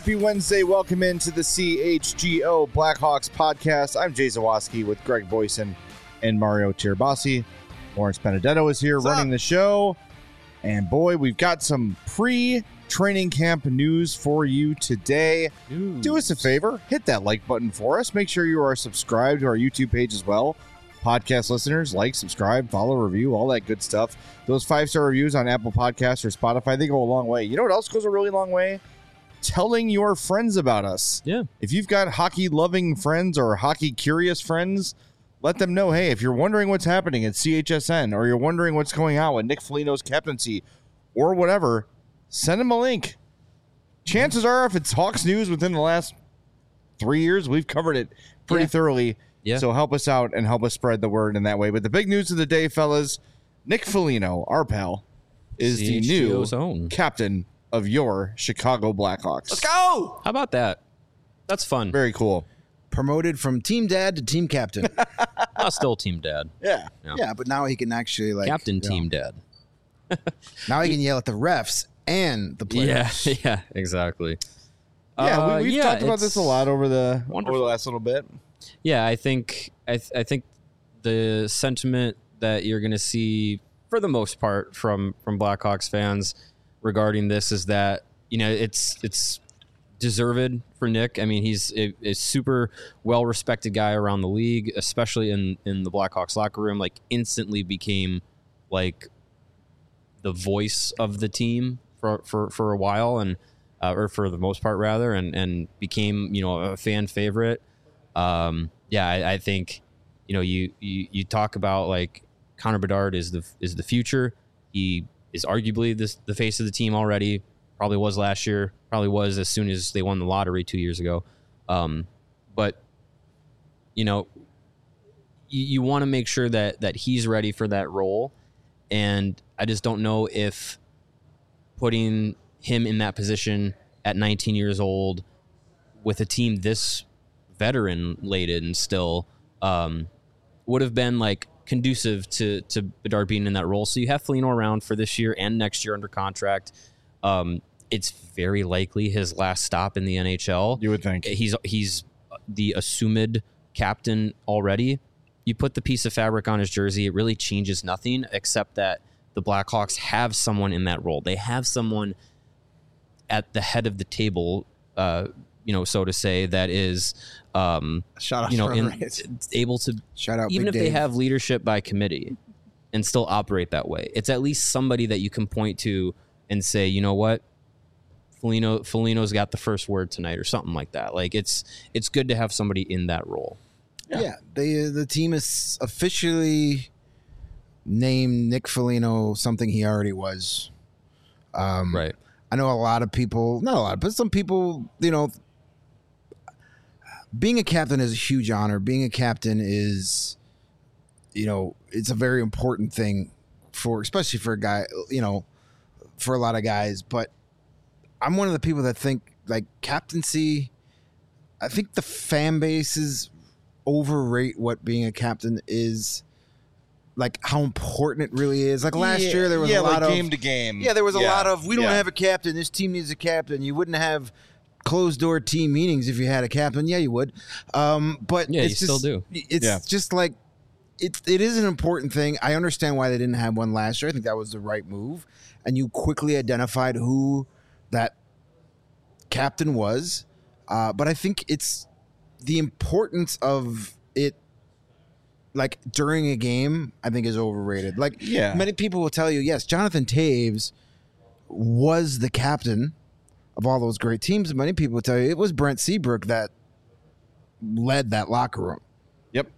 Happy Wednesday. Welcome into the CHGO Blackhawks podcast. I'm Jay Zawoski with Greg Boyson and Mario Tirabassi. Lawrence Benedetto is here running the show. And boy, we've got some pre-training camp news for you today. Do us a favor, hit that like button for us. Make sure you are subscribed to our YouTube page as well. Podcast listeners, like, subscribe, follow, review, all that good stuff. Those 5-star reviews on Apple Podcasts or Spotify, they go a long way. You know what else goes a really long way? Telling your friends about us. Yeah. If you've got hockey-loving friends or hockey-curious friends, let them know, hey, if you're wondering what's happening at CHSN or you're wondering what's going on with Nick Foligno's captaincy or whatever, send them a link. Chances are, if it's Hawks news within the last 3 years, we've covered it pretty thoroughly. Yeah. So help us out and help us spread the word in that way. But the big news of the day, fellas, Nick Foligno, our pal, is the new captain of your Chicago Blackhawks. Let's go! How about that? That's fun. Very cool. Promoted from team dad to team captain. Still team dad. Yeah. Yeah, but now he can actually captain team dad. Now he can yell at the refs and the players. Yeah, exactly. Yeah, we've talked about this a lot over the last little bit. Yeah, I think the sentiment that you're going to see for the most part from Blackhawks fans regarding this is that, you know, it's deserved for Nick. I mean, he's a super well-respected guy around the league, especially in the Blackhawks locker room, like instantly became like the voice of the team for a while and or for the most part rather, and became, you know, a fan favorite. I think, you know, you talk about like Connor Bedard is the future. He is arguably the face of the team already. Probably was last year. Probably was as soon as they won the lottery 2 years ago. But you know, you want to make sure that he's ready for that role. And I just don't know if putting him in that position at 19 years old with a team this veteran laden still would have been like conducive to Bedard being in that role. So you have Foligno around for this year and next year under contract. It's very likely his last stop in the NHL. You would think. He's the assumed captain already. You put the piece of fabric on his jersey, it really changes nothing except that the Blackhawks have someone in that role. They have someone at the head of the table, you know, so to say, that is, you know, able to, shout out, even if Big they Dave. have leadership by committee and still operate that way. It's at least somebody that you can point to and say, you know what, Foligno's got the first word tonight or something like that. Like it's good to have somebody in that role. Yeah, the team is officially named Nick Foligno something he already was. Right. I know a lot of people, not a lot, but some people, you know, being a captain is a huge honor. Being a captain is, you know, it's a very important thing especially for a guy, you know, for a lot of guys. But I'm one of the people that think like captaincy, I think the fan bases overrate what being a captain is, like how important it really is. Like last year, there was a lot of game to game. Yeah, there was a lot of, we don't have a captain. This team needs a captain. You wouldn't have closed door team meetings if you had a captain. Yeah, you would. But yeah, it's you just, still do. It's just like it is an important thing. I understand why they didn't have one last year. I think that was the right move, and you quickly identified who that captain was. But I think it's the importance of it. Like during a game, I think is overrated. Like many people will tell you, yes, Jonathan Toews was the captain of all those great teams. Many people will tell you it was Brent Seabrook that led that locker room. Yep.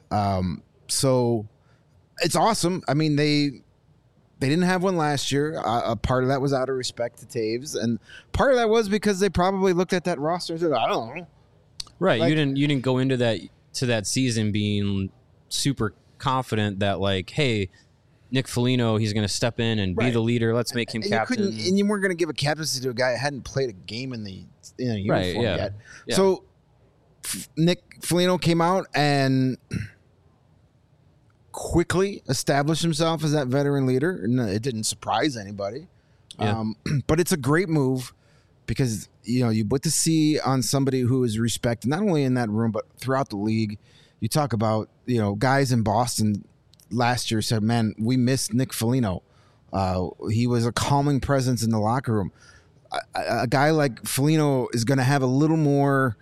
So it's awesome. I mean, they didn't have one last year. A part of that was out of respect to Toews, and part of that was because they probably looked at that roster and said, I don't know. Right. Like, you didn't go into that season being super confident that like, hey, Nick Foligno, he's going to step in and be the leader. Let's make him captain. And you weren't going to give a captaincy to a guy that hadn't played a game in the uniform yet. Yeah. So Nick Foligno came out and quickly established himself as that veteran leader. And it didn't surprise anybody. Yeah. But it's a great move because you put the C on somebody who is respected not only in that room but throughout the league. You talk about guys in Boston last year said, "Man, we missed Nick Foligno. He was a calming presence in the locker room." A guy like Foligno is going to have a little more,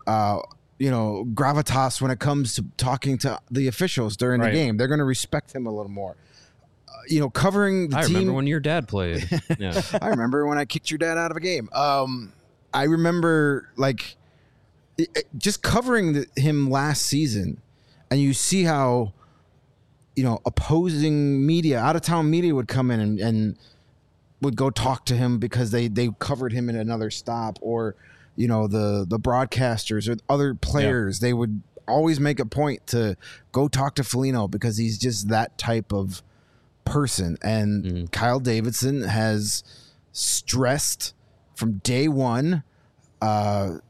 gravitas when it comes to talking to the officials during the game. They're going to respect him a little more. Covering the team. I remember when your dad played. Yeah. I remember when I kicked your dad out of a game. I remember just covering him last season, and you see how opposing media, out of town media, would come in and would go talk to him because they covered him in another stop, or the broadcasters or other players. They would always make a point to go talk to Foligno because he's just that type of person. And Kyle Davidson has stressed from day one high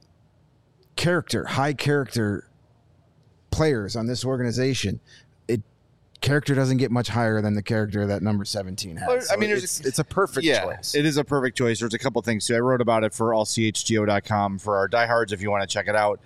character players on this organization. Character doesn't get much higher than the character that number 17 has. I mean, it's a perfect choice. It is a perfect choice. There's a couple things too. I wrote about it for allchgo.com for our diehards if you want to check it out.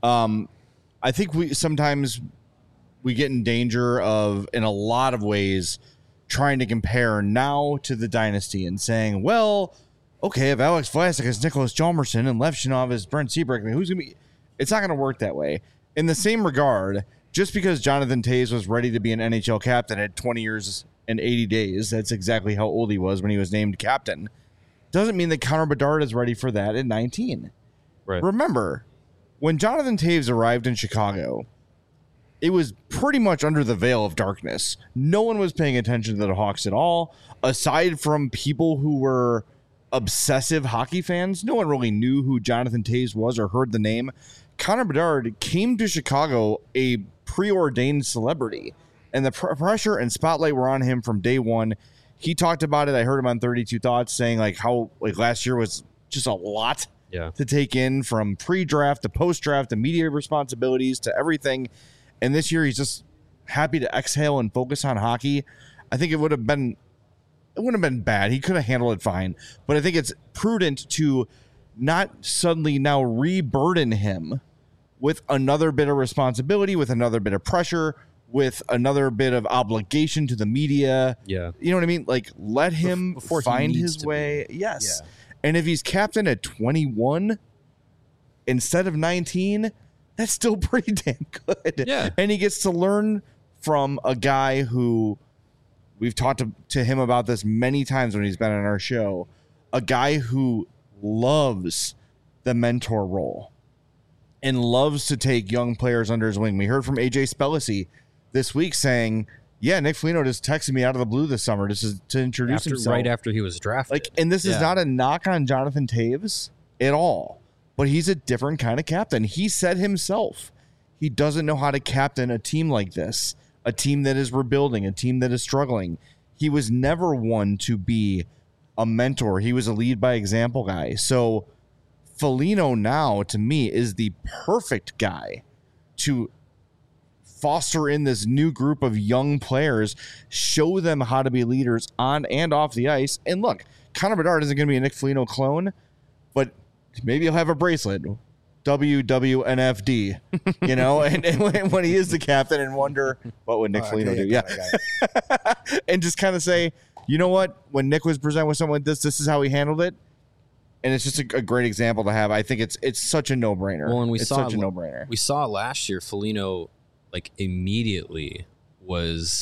I think sometimes we get in danger of, in a lot of ways, trying to compare now to the dynasty and saying, well, okay, if Alex Vlasic is Nicholas Hjalmarsson and Levchinov is Brent Seabrook, who's going to be? It's not going to work that way. In the same regard, just because Jonathan Toews was ready to be an NHL captain at 20 years and 80 days, that's exactly how old he was when he was named captain, doesn't mean that Connor Bedard is ready for that at 19. Right. Remember, when Jonathan Toews arrived in Chicago, it was pretty much under the veil of darkness. No one was paying attention to the Hawks at all. Aside from people who were obsessive hockey fans, no one really knew who Jonathan Toews was or heard the name. Connor Bedard came to Chicago a preordained celebrity, and the pressure and spotlight were on him from day one. He talked about it. I heard him on 32 Thoughts saying how last year was just a lot to take in, from pre-draft to post-draft to media responsibilities to everything. And this year he's just happy to exhale and focus on hockey. I think it wouldn't have been bad. He could have handled it fine, but I think it's prudent to not suddenly now re-burden him with another bit of responsibility, with another bit of pressure, with another bit of obligation to the media. Yeah. You know what I mean? Let him find his way. Yes. Yeah. And if he's captain at 21 instead of 19, that's still pretty damn good. Yeah. And he gets to learn from a guy who, we've talked to him about this many times when he's been on our show, a guy who loves the mentor role and loves to take young players under his wing. We heard from AJ Spellacy this week saying, yeah, Nick Foligno just texted me out of the blue this summer to introduce himself. Right after he was drafted. And this is not a knock on Jonathan Toews at all, but he's a different kind of captain. He said himself, he doesn't know how to captain a team like this, a team that is rebuilding, a team that is struggling. He was never one to be a mentor. He was a lead by example guy. So Foligno now, to me, is the perfect guy to foster in this new group of young players, show them how to be leaders on and off the ice. And look, Connor Bedard isn't going to be a Nick Foligno clone, but maybe he'll have a bracelet, WWNFD, and when he is the captain, and wonder, what would Nick Foligno do? Yeah. And just kind of say, you know what? When Nick was presented with something like this is how he handled it. And it's just a great example to have. I think it's such a no-brainer. Well, and such a no-brainer. We saw last year, Foligno, immediately was,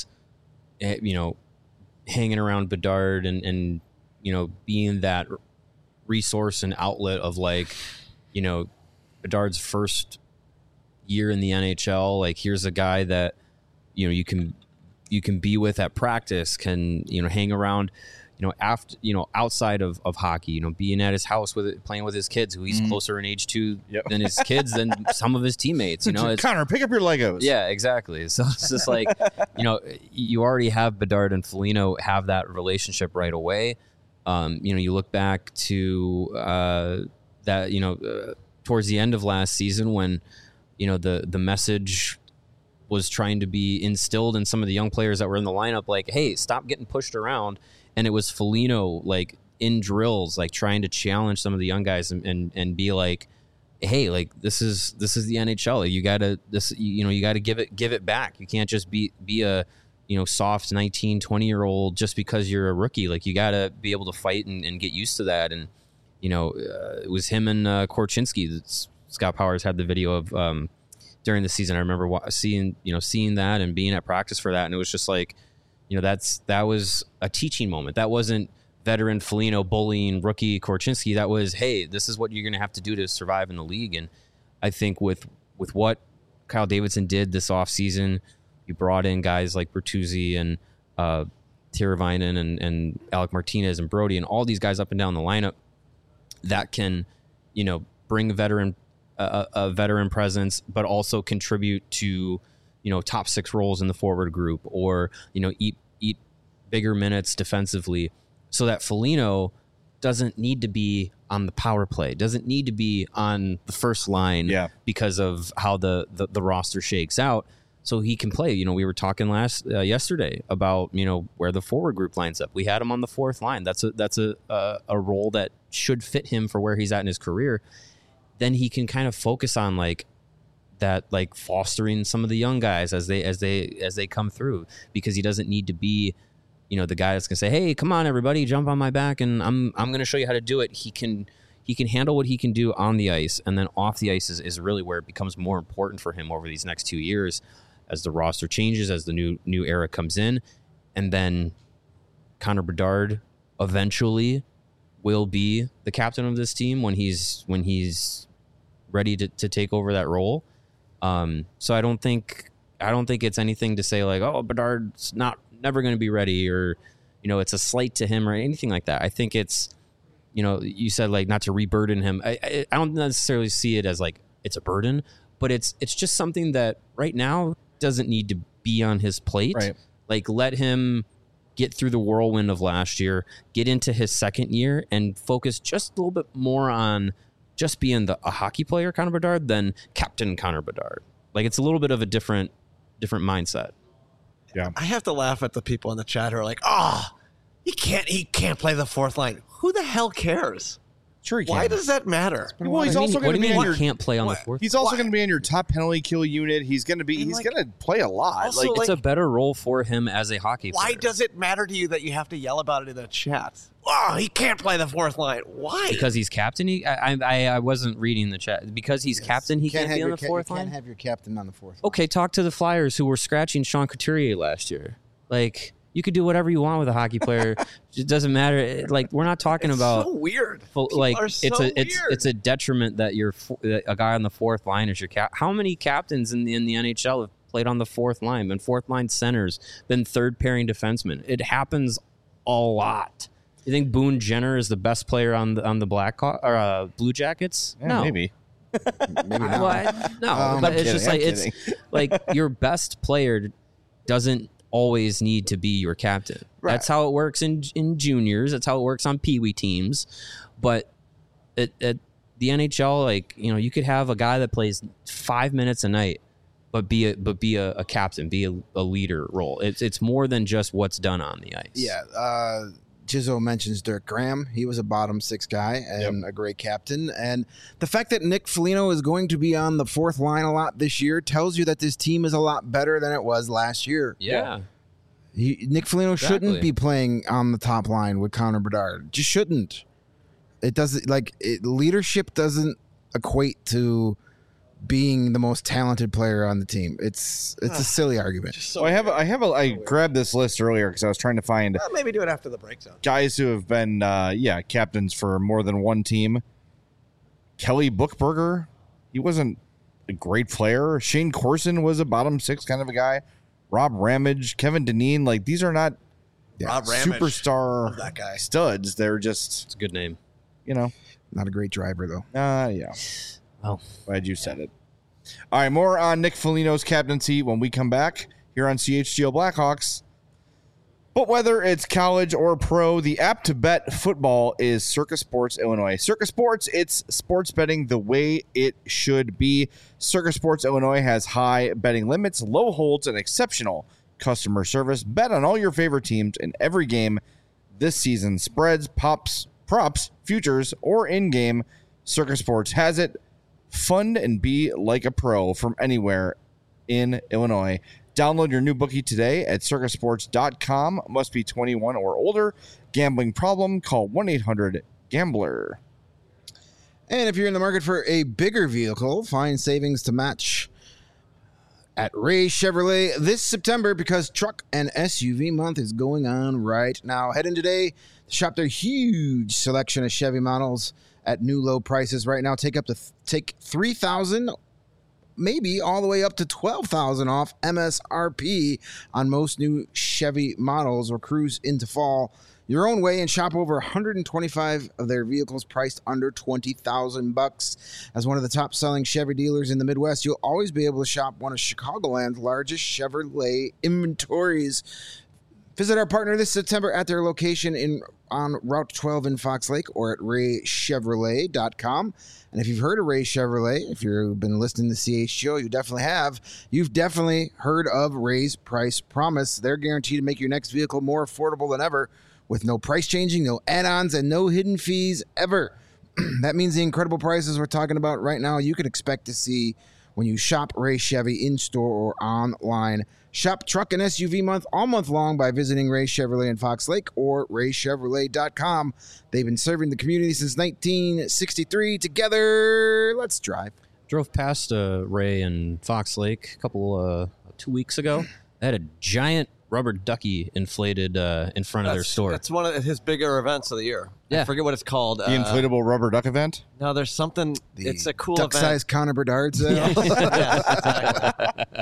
hanging around Bedard and being that resource and outlet of Bedard's first year in the NHL. Here's a guy that, you can be with at practice, can, hang around, after, outside of hockey, being at his house playing with his kids, who he's closer in age to than his kids, than some of his teammates, it's, Connor, pick up your Legos. Yeah, exactly. So it's just you already have Bedard and Foligno have that relationship right away. You look back to that, towards the end of last season when, the message was trying to be instilled in some of the young players that were in the lineup, hey, stop getting pushed around. And it was Foligno, in drills, like trying to challenge some of the young guys and be like, hey, like this is the NHL. Like, you gotta give it back. You can't just be a soft 19, 20-year-old just because you're a rookie. Like, you gotta be able to fight and get used to that. And it was him and Korchinski. Scott Powers had the video of during the season. I remember seeing that and being at practice for that, and it was just like, that was a teaching moment. That wasn't veteran Foligno bullying rookie Korchinski. That was, hey, this is what you're going to have to do to survive in the league. And I think with what Kyle Davidson did this offseason, you brought in guys like Bertuzzi and Tiravainen and Alec Martinez and Brody and all these guys up and down the lineup that can, bring a veteran presence, but also contribute to, top six roles in the forward group, or, eat bigger minutes defensively, so that Foligno doesn't need to be on the power play, doesn't need to be on the first line because of how the roster shakes out. So he can play. We were talking yesterday about, where the forward group lines up. We had him on the fourth line. That's a role that should fit him for where he's at in his career. Then he can kind of focus on fostering some of the young guys as they come through, because he doesn't need to be, the guy that's gonna say, hey, come on everybody, jump on my back and I'm gonna show you how to do it. He can handle what he can do on the ice, and then off the ice is really where it becomes more important for him over these next 2 years as the roster changes, as the new era comes in. And then Connor Bedard eventually will be the captain of this team when he's ready to take over that role. So I don't think it's anything to say like, oh, Bedard's never going to be ready, or it's a slight to him or anything like that. I think it's, you said like not to reburden him. I don't necessarily see it as like it's a burden, but it's just something that right now doesn't need to be on his plate. Right. Like, let him get through the whirlwind of last year, get into his second year, and focus just a little bit more on just being a hockey player, Connor Bedard, than Captain Connor Bedard. Like, it's a little bit of a different mindset. Yeah. I have to laugh at the people in the chat who are like, he can't play the fourth line. Who the hell cares? Sure he can. Why does that matter? Well, he's also going to be on your. Can't play on the fourth. He's also going to be on your top penalty kill unit. He's going to be. He's going to play a lot. Also, it's a better role for him as a hockey player. Why does it matter to you that you have to yell about it in the chat? Oh, he can't play the fourth line. Why? Because he's captain. I wasn't reading the chat. Because he's captain, he can't be on the fourth line. You can't have your captain on the fourth line. Okay, talk to the Flyers who were scratching Sean Couturier last year. Like, you could do whatever you want with a hockey player. It doesn't matter. Like, we're not talking about so weird. It's a detriment that a guy on the fourth line is your cap. How many captains in the NHL have played on the fourth line, been fourth line centers, been third pairing defensemen? It happens a lot. You think Boone Jenner is the best player on the Blue Jackets? Yeah, no, maybe. Maybe not. No, but it's just like it's like your best player doesn't always need to be your captain. Right. That's how it works in juniors. That's how it works on Pee Wee teams. But at the NHL, like, you could have a guy that plays 5 minutes a night, but be a captain, be a leader role. It's more than just what's done on the ice. Yeah. Jizzo mentions Dirk Graham. He was a bottom six guy and a great captain. And the fact that Nick Foligno is going to be on the fourth line a lot this year tells you that this team is a lot better than it was last year. Yeah. Nick Foligno shouldn't be playing on the top line with Connor Bedard. Just shouldn't. It doesn't leadership doesn't equate to being the most talented player on the team. It's a silly argument. So I grabbed this list earlier because I was trying to find maybe do it after the break zone. Guys who have been captains for more than one team. Kelly Buchberger, he wasn't a great player. Shane Corson was a bottom six kind of a guy. Rob Ramage, Kevin Dineen, like, these are not superstar that guy. studs. They're just, It's a good name. Not a great driver though. Yeah. Oh, Glad you said it. All right, more on Nick Foligno's captaincy when we come back here on CHGO Blackhawks. But whether it's college or pro, the app to bet football is Circa Sports Illinois. Circa Sports, it's sports betting the way it should be. Circa Sports Illinois has high betting limits, low holds, and exceptional customer service. Bet on all your favorite teams in every game this season. Spreads, props, futures, or in-game, Circa Sports has it. Fund and be like a pro from anywhere in Illinois. Download your new bookie today at circasports.com. Must be 21 or older. Gambling problem? Call 1-800-GAMBLER. And if you're in the market for a bigger vehicle, find savings to match at Ray Chevrolet this September, because truck and SUV month is going on right now. Head in today to shop their huge selection of Chevy models at new low prices right now. Take $3,000, maybe all the way up to $12,000 off MSRP on most new Chevy models, or cruise into fall your own way and shop over 125 of their vehicles priced under $20,000. As one of the top selling Chevy dealers in the Midwest, you'll always be able to shop one of Chicagoland's largest Chevrolet inventories. Visit our partner this September at their location on Route 12 in Fox Lake, or at raychevrolet.com. And if you've heard of Ray Chevrolet, if you've been listening to CHGO, you definitely have. You've definitely heard of Ray's Price Promise. They're guaranteed to make your next vehicle more affordable than ever, with no price changing, no add-ons, and no hidden fees ever. That means the incredible prices we're talking about right now you can expect to see when you shop Ray Chevy in-store or online. Shop truck and SUV month all month long by visiting Ray Chevrolet in Fox Lake or raychevrolet.com. They've been serving the community since 1963. Together, let's drive. Drove past Ray in Fox Lake a couple 2 weeks ago. They had a giant rubber ducky inflated in front of their store. That's one of his bigger events of the year. Yeah. I forget what it's called. The inflatable rubber duck event? No, there's something. It's a cool duck-sized Connor Bedard sale. Yeah, exactly.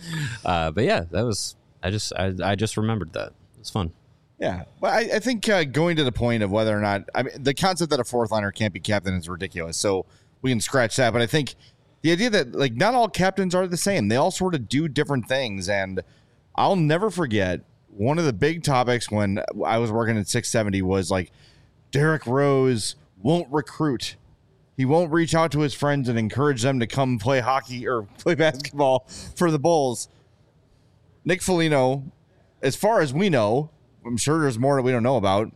But yeah, that was. I just remembered that. It was fun. Yeah, but I think going to the point of whether or not, I mean, the concept that a fourth liner can't be captain is ridiculous. So we can scratch that. But I think the idea that, like, not all captains are the same. They all sort of do different things. And I'll never forget one of the big topics when I was working at 670 was like, Derrick Rose won't recruit. He won't reach out to his friends and encourage them to come play hockey or play basketball for the Bulls. Nick Foligno, as far as we know, I'm sure there's more that we don't know about,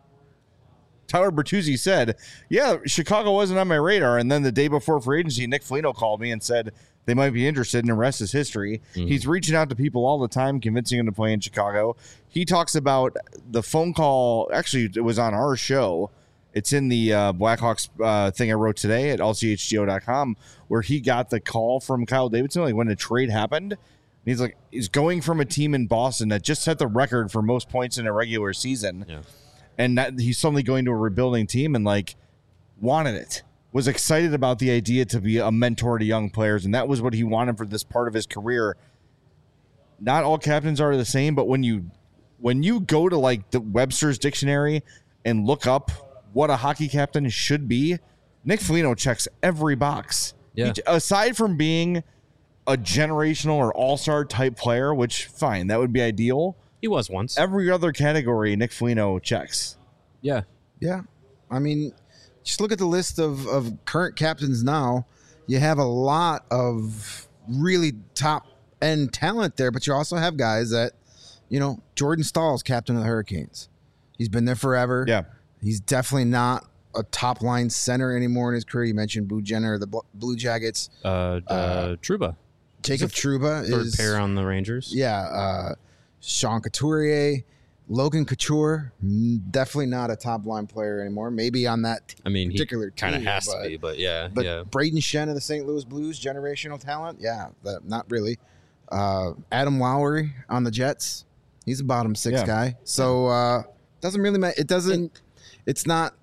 Tyler Bertuzzi said, yeah, Chicago wasn't on my radar. And then the day before free agency, Nick Foligno called me and said they might be interested, and the rest is history. Mm-hmm. He's reaching out to people all the time, convincing them to play in Chicago. He talks about the phone call. Actually, it was on our show. It's in the Blackhawks thing I wrote today at allchgo.com, where he got the call from Kyle Davidson, like when the trade happened. And he's like, he's going from a team in Boston that just set the record for most points in a regular season. Yeah. And that he's suddenly going to a rebuilding team and like wanted it, was excited about the idea to be a mentor to young players. And that was what he wanted for this part of his career. Not all captains are the same, but when you go to like the Webster's dictionary and look up what a hockey captain should be, Nick Foligno checks every box. Yeah. Aside from being a generational or all-star type player, which fine, that would be ideal. He was once. Every other category Nick Foligno checks. Yeah. Yeah. I mean, just look at the list of current captains now. You have a lot of really top-end talent there, but you also have guys that, you know, Jordan Stahl's captain of the Hurricanes. He's been there forever. Yeah. He's definitely not a top-line center anymore in his career. You mentioned Boo Jenner, the Blue Jackets. Trouba. Jacob Trouba Third is pair on the Rangers. Yeah. Sean Couturier, Logan Couture, definitely not a top line player anymore. Maybe on that particular team. Kind of has to be, but yeah. But Braden Shen of the St. Louis Blues, generational talent. Yeah, not really. Adam Lowry on the Jets. He's a bottom six guy. So doesn't really matter. It doesn't. It's not.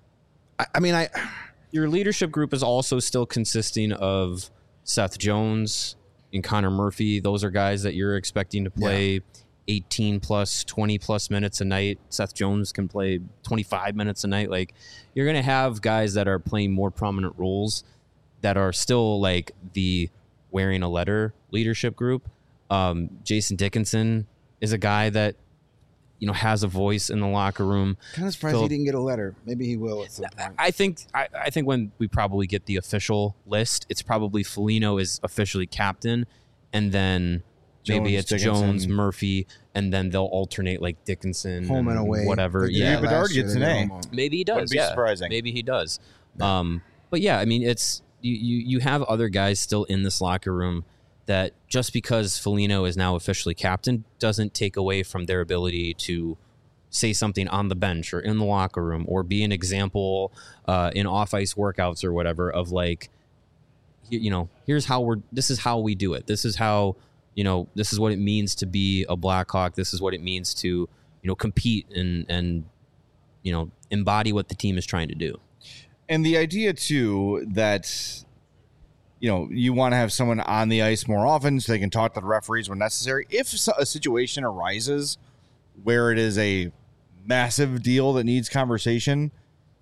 Your leadership group is also still consisting of Seth Jones and Connor Murphy. Those are guys that you're expecting to play 18 plus, 20 plus minutes a night. Seth Jones can play 25 minutes a night. Like, you're going to have guys that are playing more prominent roles that are still like the wearing a letter leadership group. Jason Dickinson is a guy that, you know, has a voice in the locker room. Kind of surprised he didn't get a letter. Maybe he will at some point. I think when we probably get the official list, it's probably Foligno is officially captain, and then Maybe Jones, it's Dickinson. Jones, Murphy, and then they'll alternate like Dickinson, Home and away. whatever. Like they Yeah, did Bedard last year, gets they an did A. home. maybe he Wouldn't does. be Yeah, surprising. maybe he does. But yeah, I mean, it's you have other guys still in this locker room that just because Foligno is now officially captain doesn't take away from their ability to say something on the bench or in the locker room or be an example in off ice workouts or whatever of like, here's how this is how we do it. This is how, this is what it means to be a Blackhawk. This is what it means to, compete and embody what the team is trying to do. And the idea too that you want to have someone on the ice more often so they can talk to the referees when necessary. If a situation arises where it is a massive deal that needs conversation,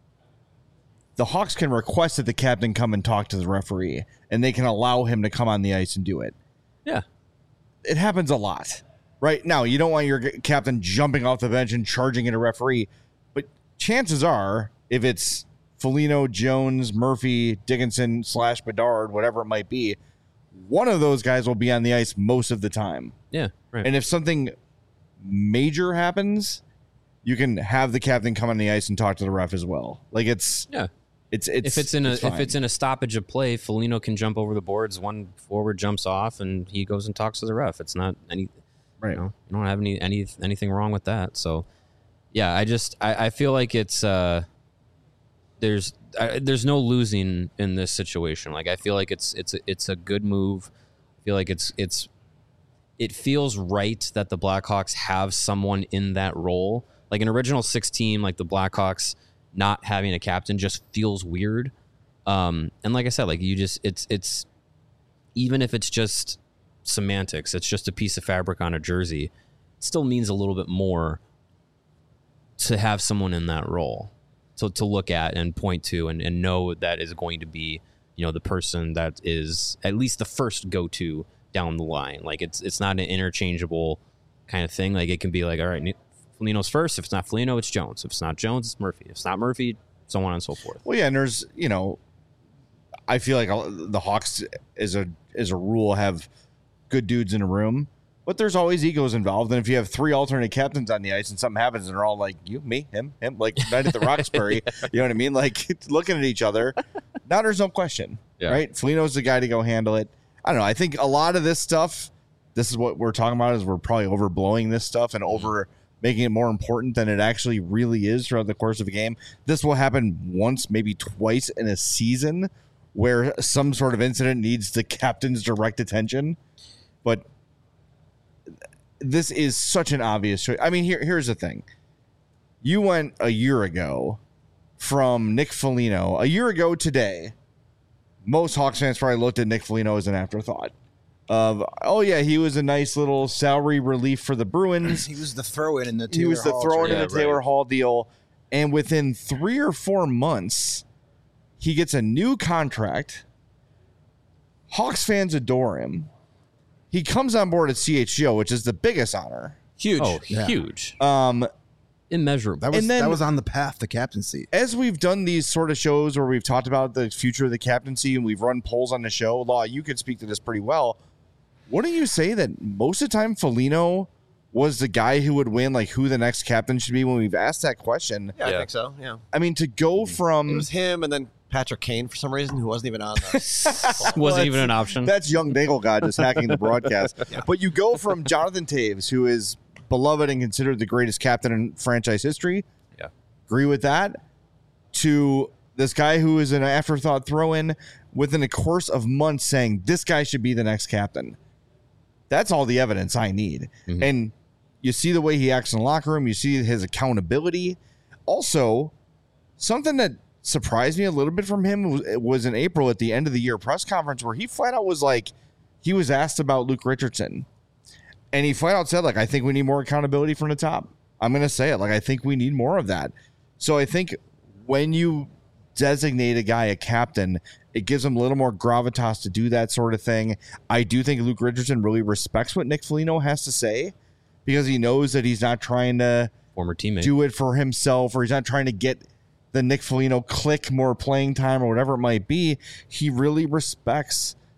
the Hawks can request that the captain come and talk to the referee, and they can allow him to come on the ice and do it. Yeah. It happens a lot. Right now, you don't want your captain jumping off the bench and charging at a referee, but chances are, if it's Foligno, Jones, Murphy, Dickinson / Bedard, whatever it might be, one of those guys will be on the ice most of the time. Yeah. Right. And if something major happens, you can have the captain come on the ice and talk to the ref as well. Like it's yeah. It's if it's in fine. a stoppage of play, Foligno can jump over the boards. One forward jumps off, and he goes and talks to the ref. It's not any, right. You don't have anything wrong with that. So, yeah, I feel like it's there's no losing in this situation. Like I feel like it's a good move. I feel like it feels right that the Blackhawks have someone in that role. Like an original 6 team, like the Blackhawks not having a captain just feels weird. And like I said, like it's even if it's just semantics, it's just a piece of fabric on a jersey, it still means a little bit more to have someone in that role. So to look at and point to and know that is going to be, the person that is at least the first go-to down the line. Like it's not an interchangeable kind of thing. Like it can be like, all right, Foligno's first. If it's not Foligno, it's Jones. If it's not Jones, it's Murphy. If it's not Murphy, so on and so forth. Well, yeah, and there's, I feel like the Hawks as a rule have good dudes in a room, but there's always egos involved. And if you have 3 alternate captains on the ice and something happens and they're all like, you, me, him, like night at the Roxbury, you know what I mean? Like looking at each other. Now there's no question, right? Foligno's the guy to go handle it. I don't know. I think a lot of this stuff, this is what we're talking about, is we're probably overblowing this stuff and over making it more important than it actually really is throughout the course of a game. This will happen once, maybe twice in a season where some sort of incident needs the captain's direct attention. But this is such an obvious choice. I mean, here's the thing. You went a year ago from Nick Foligno. A year ago today, most Hawks fans probably looked at Nick Foligno as an afterthought. He was a nice little salary relief for the Bruins. He was the throw-in in the Taylor Hall deal. And within 3 or 4 months, he gets a new contract. Hawks fans adore him. He comes on board at CHGO, which is the biggest honor. Huge. Oh, yeah. Huge. Immeasurable. That was on the path to captaincy. As we've done these sort of shows where we've talked about the future of the captaincy and we've run polls on the show, Law, you could speak to this pretty well. Wouldn't you say that most of the time Foligno was the guy who would win, like who the next captain should be when we've asked that question? Yeah, I think so. Yeah. I mean, to go from... It was him and then Patrick Kane for some reason, who wasn't even on the... wasn't even an option. That's young Nagel guy just hacking the broadcast. Yeah. But you go from Jonathan Toews, who is beloved and considered the greatest captain in franchise history. Yeah. Agree with that. To this guy who is an afterthought throw-in within a course of months saying, this guy should be the next captain. That's all the evidence I need. Mm-hmm. And you see the way he acts in the locker room. You see his accountability. Also, something that surprised me a little bit from him was in April at the end of the year press conference where he flat out was like, he was asked about Luke Richardson. And he flat out said, like, I think we need more accountability from the top. I'm going to say it. Like, I think we need more of that. So I think when you designate a guy a captain, it gives him a little more gravitas to do that sort of thing. I do think Luke Richardson really respects what Nick Foligno has to say because he knows that he's not trying to former teammate do it for himself, or he's not trying to get the Nick Foligno click more playing time or whatever it might be. He really respects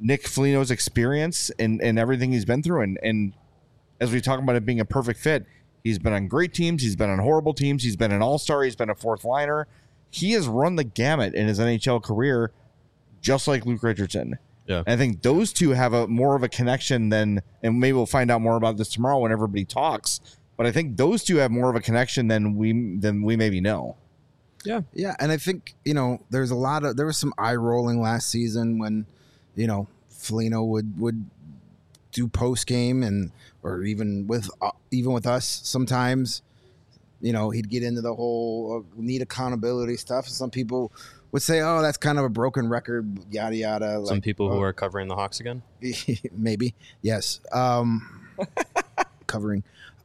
Nick Foligno's experience and everything he's been through. And as we talk about it being a perfect fit, he's been on great teams. He's been on horrible teams. He's been an all-star. He's been a fourth liner. He has run the gamut in his NHL career, just like Luke Richardson. Yeah. And I think those two have a more of a connection than, and maybe we'll find out more about this tomorrow when everybody talks. But I think those two have more of a connection than we maybe know. Yeah. Yeah, and I think, there was some eye rolling last season when, Foligno would do post game or even with us sometimes, he'd get into the whole need accountability stuff. Some people would say, "Oh, that's kind of a broken record," yada yada. Some people who are covering the Hawks again. Maybe, yes. Covering,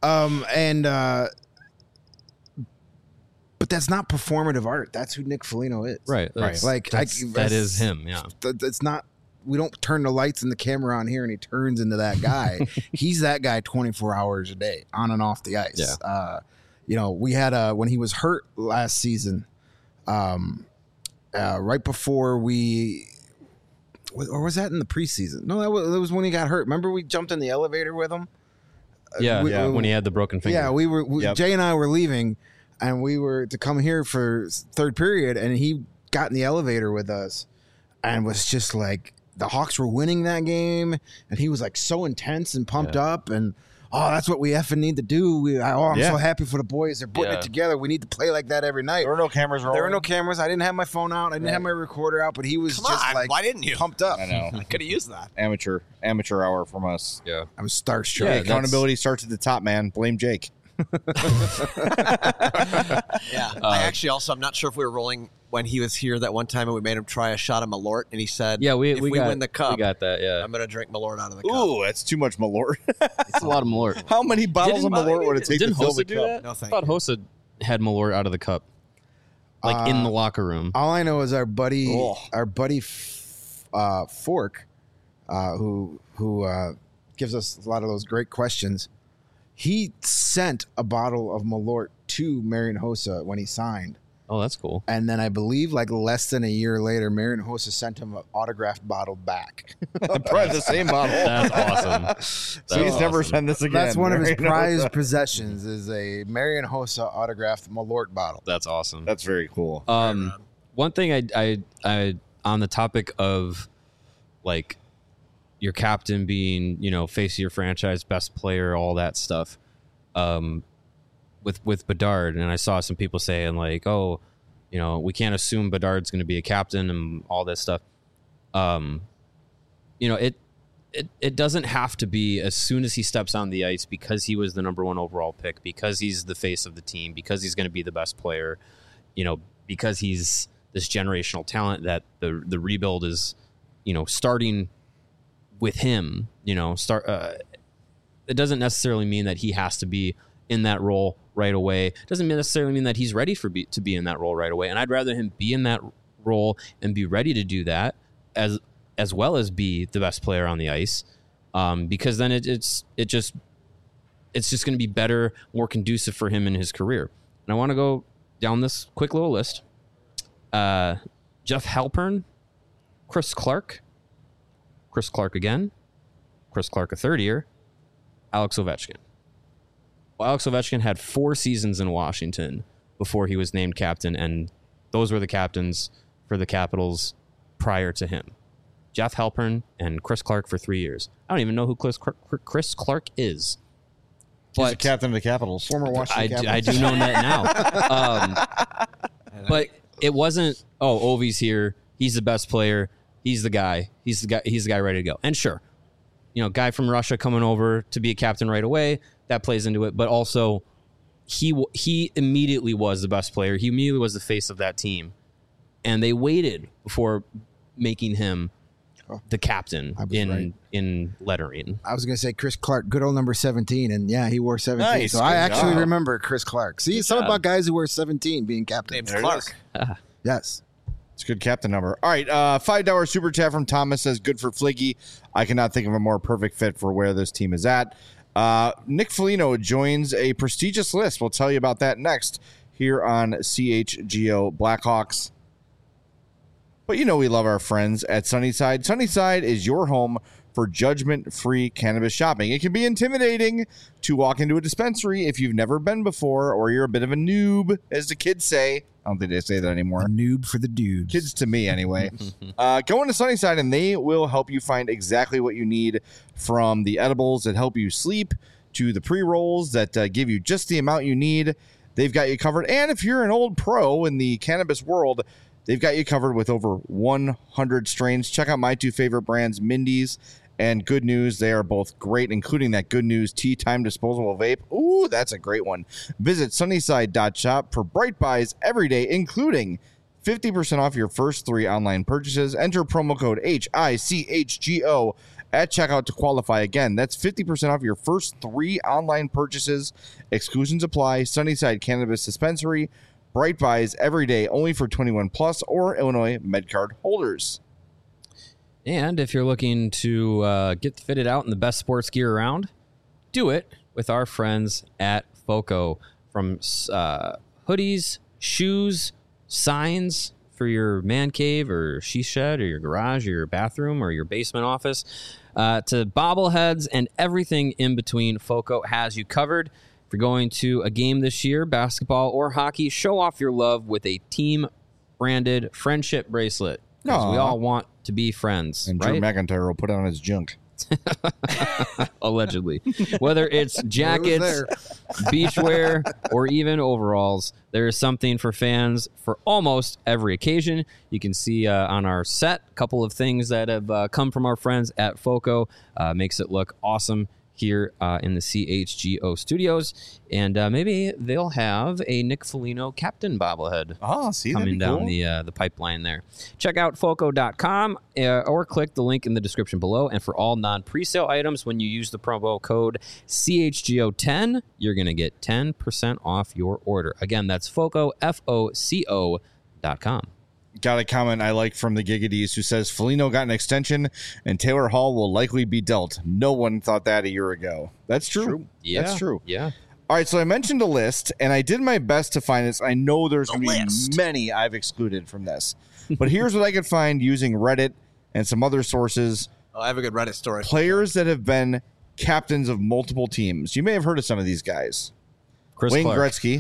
but that's not performative art. That's who Nick Foligno is. Right. That is him. Yeah. It's not. We don't turn the lights and the camera on here and he turns into that guy. He's that guy 24 hours a day, on and off the ice. Yeah. We had when he was hurt last season, right before or was that in the preseason? No, that was when he got hurt. Remember we jumped in the elevator with him? When he had the broken finger. Yeah, Jay and I were leaving, and we were to come here for third period, and he got in the elevator with us and was just like, the Hawks were winning that game, and he was like so intense and pumped up, and that's what we effing need to do. I'm so happy for the boys. They're putting it together. We need to play like that every night. There were no cameras rolling. There were no cameras. I didn't have my phone out. I didn't have my recorder out, but he was why didn't you? Pumped up. I know. I could have used that. Amateur hour from us. Yeah. I was starstruck. Yeah, accountability starts at the top, man. Blame Jake. I'm not sure if we were rolling when he was here that one time and we made him try a shot of Malort, and he said, "Yeah, if we win the cup, we got that. Yeah, I'm gonna drink Malort out of the cup." Ooh, that's too much Malort. it's a lot of Malort. How many bottles of Malort would it take to Didn't fill the Hossa do cup? that? No, I thank thought you. Hossa had Malort out of the cup, in the locker room. All I know is our buddy Fork, who gives us a lot of those great questions. He sent a bottle of Malort to Marian Hossa when he signed. Oh, that's cool. And then I believe less than a year later, Marian Hossa sent him an autographed bottle back. Probably the same bottle. That's awesome. Please never send this again. That's one of his Marian prized Hossa. possessions is a Marian Hossa autographed Malort bottle. That's awesome. That's very cool. One thing I on the topic of your captain being, face of your franchise, best player, all that stuff. With Bedard, and I saw some people saying we can't assume Bedard's going to be a captain and all this stuff. It doesn't have to be as soon as he steps on the ice because he was the number 1 overall pick, because he's the face of the team, because he's going to be the best player, because he's this generational talent that the rebuild is, starting with him. It doesn't necessarily mean that he has to be in that role right away. It doesn't necessarily mean that he's ready to be in that role right away. And I'd rather him be in that role and be ready to do that as well as be the best player on the ice, because then it's just going to be better, more conducive for him in his career. And I want to go down this quick little list. Jeff Halpern, Chris Clark again, Chris Clark a third year, Alex Ovechkin. Well, Alex Ovechkin had 4 seasons in Washington before he was named captain, and those were the captains for the Capitals prior to him. Jeff Halpern and Chris Clark for 3 years. I don't even know who Chris Clark is. He's the captain of the Capitals. Former Washington Capitals. I do know that now. But it wasn't, Ovi's here. He's the best player. He's the guy. He's the guy ready to go. And sure, guy from Russia coming over to be a captain right away, that plays into it. But also, he immediately was the best player. He immediately was the face of that team. And they waited before making him the captain in lettering. I was going to say Chris Clark, good old number 17, and yeah, he wore 17. Nice, so I good actually job. remember Chris Clark. See, something about guys who wear 17 being captain. Name's There it Clark. Yes. It's a good captain number. All right, $5 super chat from Thomas says, good for Fliggy. I cannot think of a more perfect fit for where this team is at. Nick Foligno joins a prestigious list. We'll tell you about that next here on CHGO Blackhawks. But we love our friends at Sunnyside. Sunnyside is your home for judgment-free cannabis shopping. It can be intimidating to walk into a dispensary if you've never been before, or you're a bit of a noob, as the kids say. I don't think they say that anymore. A noob for the dudes. Kids to me, anyway. Go into Sunnyside, and they will help you find exactly what you need, from the edibles that help you sleep to the pre-rolls that give you just the amount you need. They've got you covered. And if you're an old pro in the cannabis world, they've got you covered with over 100 strains. Check out my two favorite brands, Mindy's and Good News. They are both great, including that Good News Tea Time disposable vape. Ooh, that's a great one. Visit sunnyside.shop for bright buys every day, including 50% off your first 3 online purchases. Enter promo code HICHGO at checkout to qualify. Again, that's 50% off your first 3 online purchases. Exclusions apply. Sunnyside Cannabis Dispensary. Bright buys every day, only for 21 plus or Illinois MedCard holders. And if you're looking to get fitted out in the best sports gear around, do it with our friends at FOCO. From hoodies, shoes, signs for your man cave or she shed or your garage or your bathroom or your basement office, to bobbleheads and everything in between, FOCO has you covered. If you're going to a game this year, basketball or hockey, show off your love with a team-branded friendship bracelet. Because we all want to be friends, And right? Drew McIntyre will put it on his junk. Allegedly. Whether it's jackets, beachwear, or even overalls, there is something for fans for almost every occasion. You can see on our set a couple of things that have come from our friends at FOCO. Makes it look awesome here in the CHGO studios. And maybe they'll have a Nick Foligno captain bobblehead coming down the pipeline there. Check out FOCO.com or click the link in the description below. And for all non-presale items, when you use the promo code CHGO10, you're going to get 10% off your order. Again, that's FOCO, FOCO.com. Got a comment I like from the Gigadis, who says Foligno got an extension and Taylor Hall will likely be dealt. No one thought that a year ago. That's true. Yeah. That's true. Yeah. All right, so I mentioned a list, and I did my best to find this. I know there's going to be many I've excluded from this. But here's what I could find using Reddit and some other sources. Oh, I have a good Reddit story. Players that have been captains of multiple teams. You may have heard of some of these guys. Chris Wayne Clark. Gretzky,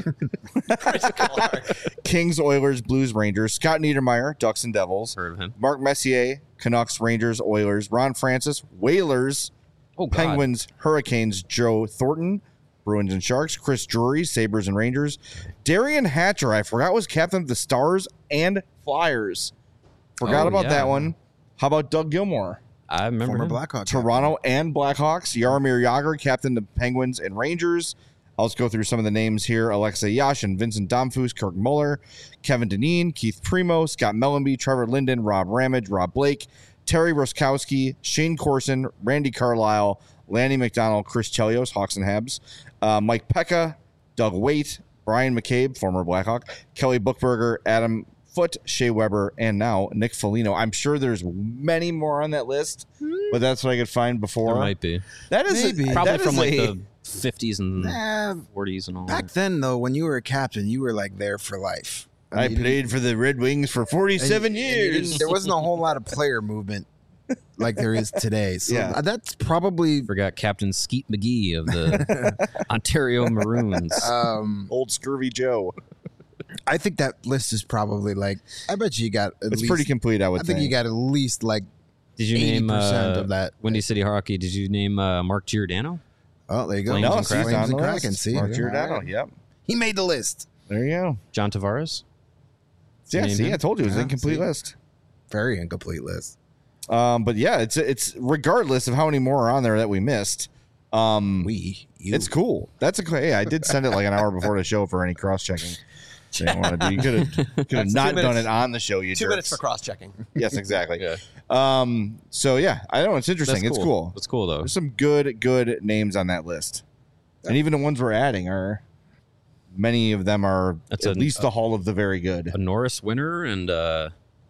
Kings, Oilers, Blues, Rangers. Scott Niedermayer, Ducks and Devils. Heard of him. Mark Messier, Canucks, Rangers, Oilers. Ron Francis, Whalers, Oh, God. Penguins, Hurricanes. Joe Thornton, Bruins and Sharks. Chris Drury, Sabres and Rangers. Darian Hatcher, I forgot, was captain of the Stars and Flyers. Forgot about that one. How about Doug Gilmour? I remember Former him. Blackhawk. Toronto and Blackhawks. Jaromir Jagr, captain of Penguins and Rangers. I'll just go through some of the names here. Alexei Yashin, Vincent Domfus, Kirk Muller, Kevin Dineen, Keith Primo, Scott Mellenby, Trevor Linden, Rob Ramage, Rob Blake, Terry Roskowski, Shane Corson, Randy Carlisle, Lanny McDonald, Chris Chelios, Hawks and Habs, Mike Pekka, Doug Waite, Brian McCabe, former Blackhawk, Kelly Buchberger, Adam Foote, Shea Weber, and now Nick Foligno. I'm sure there's many more on that list, but that's what I could find before. There might be. That is Maybe. Probably that from is like a- the 50s and 40s and all Back that. then, though, when you were a captain, you were like there for life. I mean, played for the Red Wings for 47 years. There wasn't a whole lot of player movement like there is today. So Yeah. that's probably Forgot Captain Skeet McGee of the Ontario Maroons. Old Scurvy Joe. I think that list is probably like, I bet you got at It's least, pretty complete, I would I think you got at least like Did you name 80% of that. Windy City Hockey? Did you name Mark Giordano? Oh, there you go. Flames No, and see, he's Kraken. on the Kraken. list. See, Mark yeah. Giordano, All right. yep. He made the list. There you go. John Tavares? Yeah, Name see, him. I told you it was an Yeah, incomplete see. list. Very incomplete list. But yeah, it's regardless of how many more are on there that we missed. You. It's cool. That's hey, I did send it like an hour before the show for any cross checking. You want to do? You could have not 2 done minutes. it on the show. You 2 jerks. minutes for cross-checking. Yes, exactly. Yeah. So yeah, I know it's interesting. That's It's cool. It's cool, though. There's some good names on that list, and even the ones we're adding are. Many of them are That's at least the Hall of the Very Good. A Norris winner and a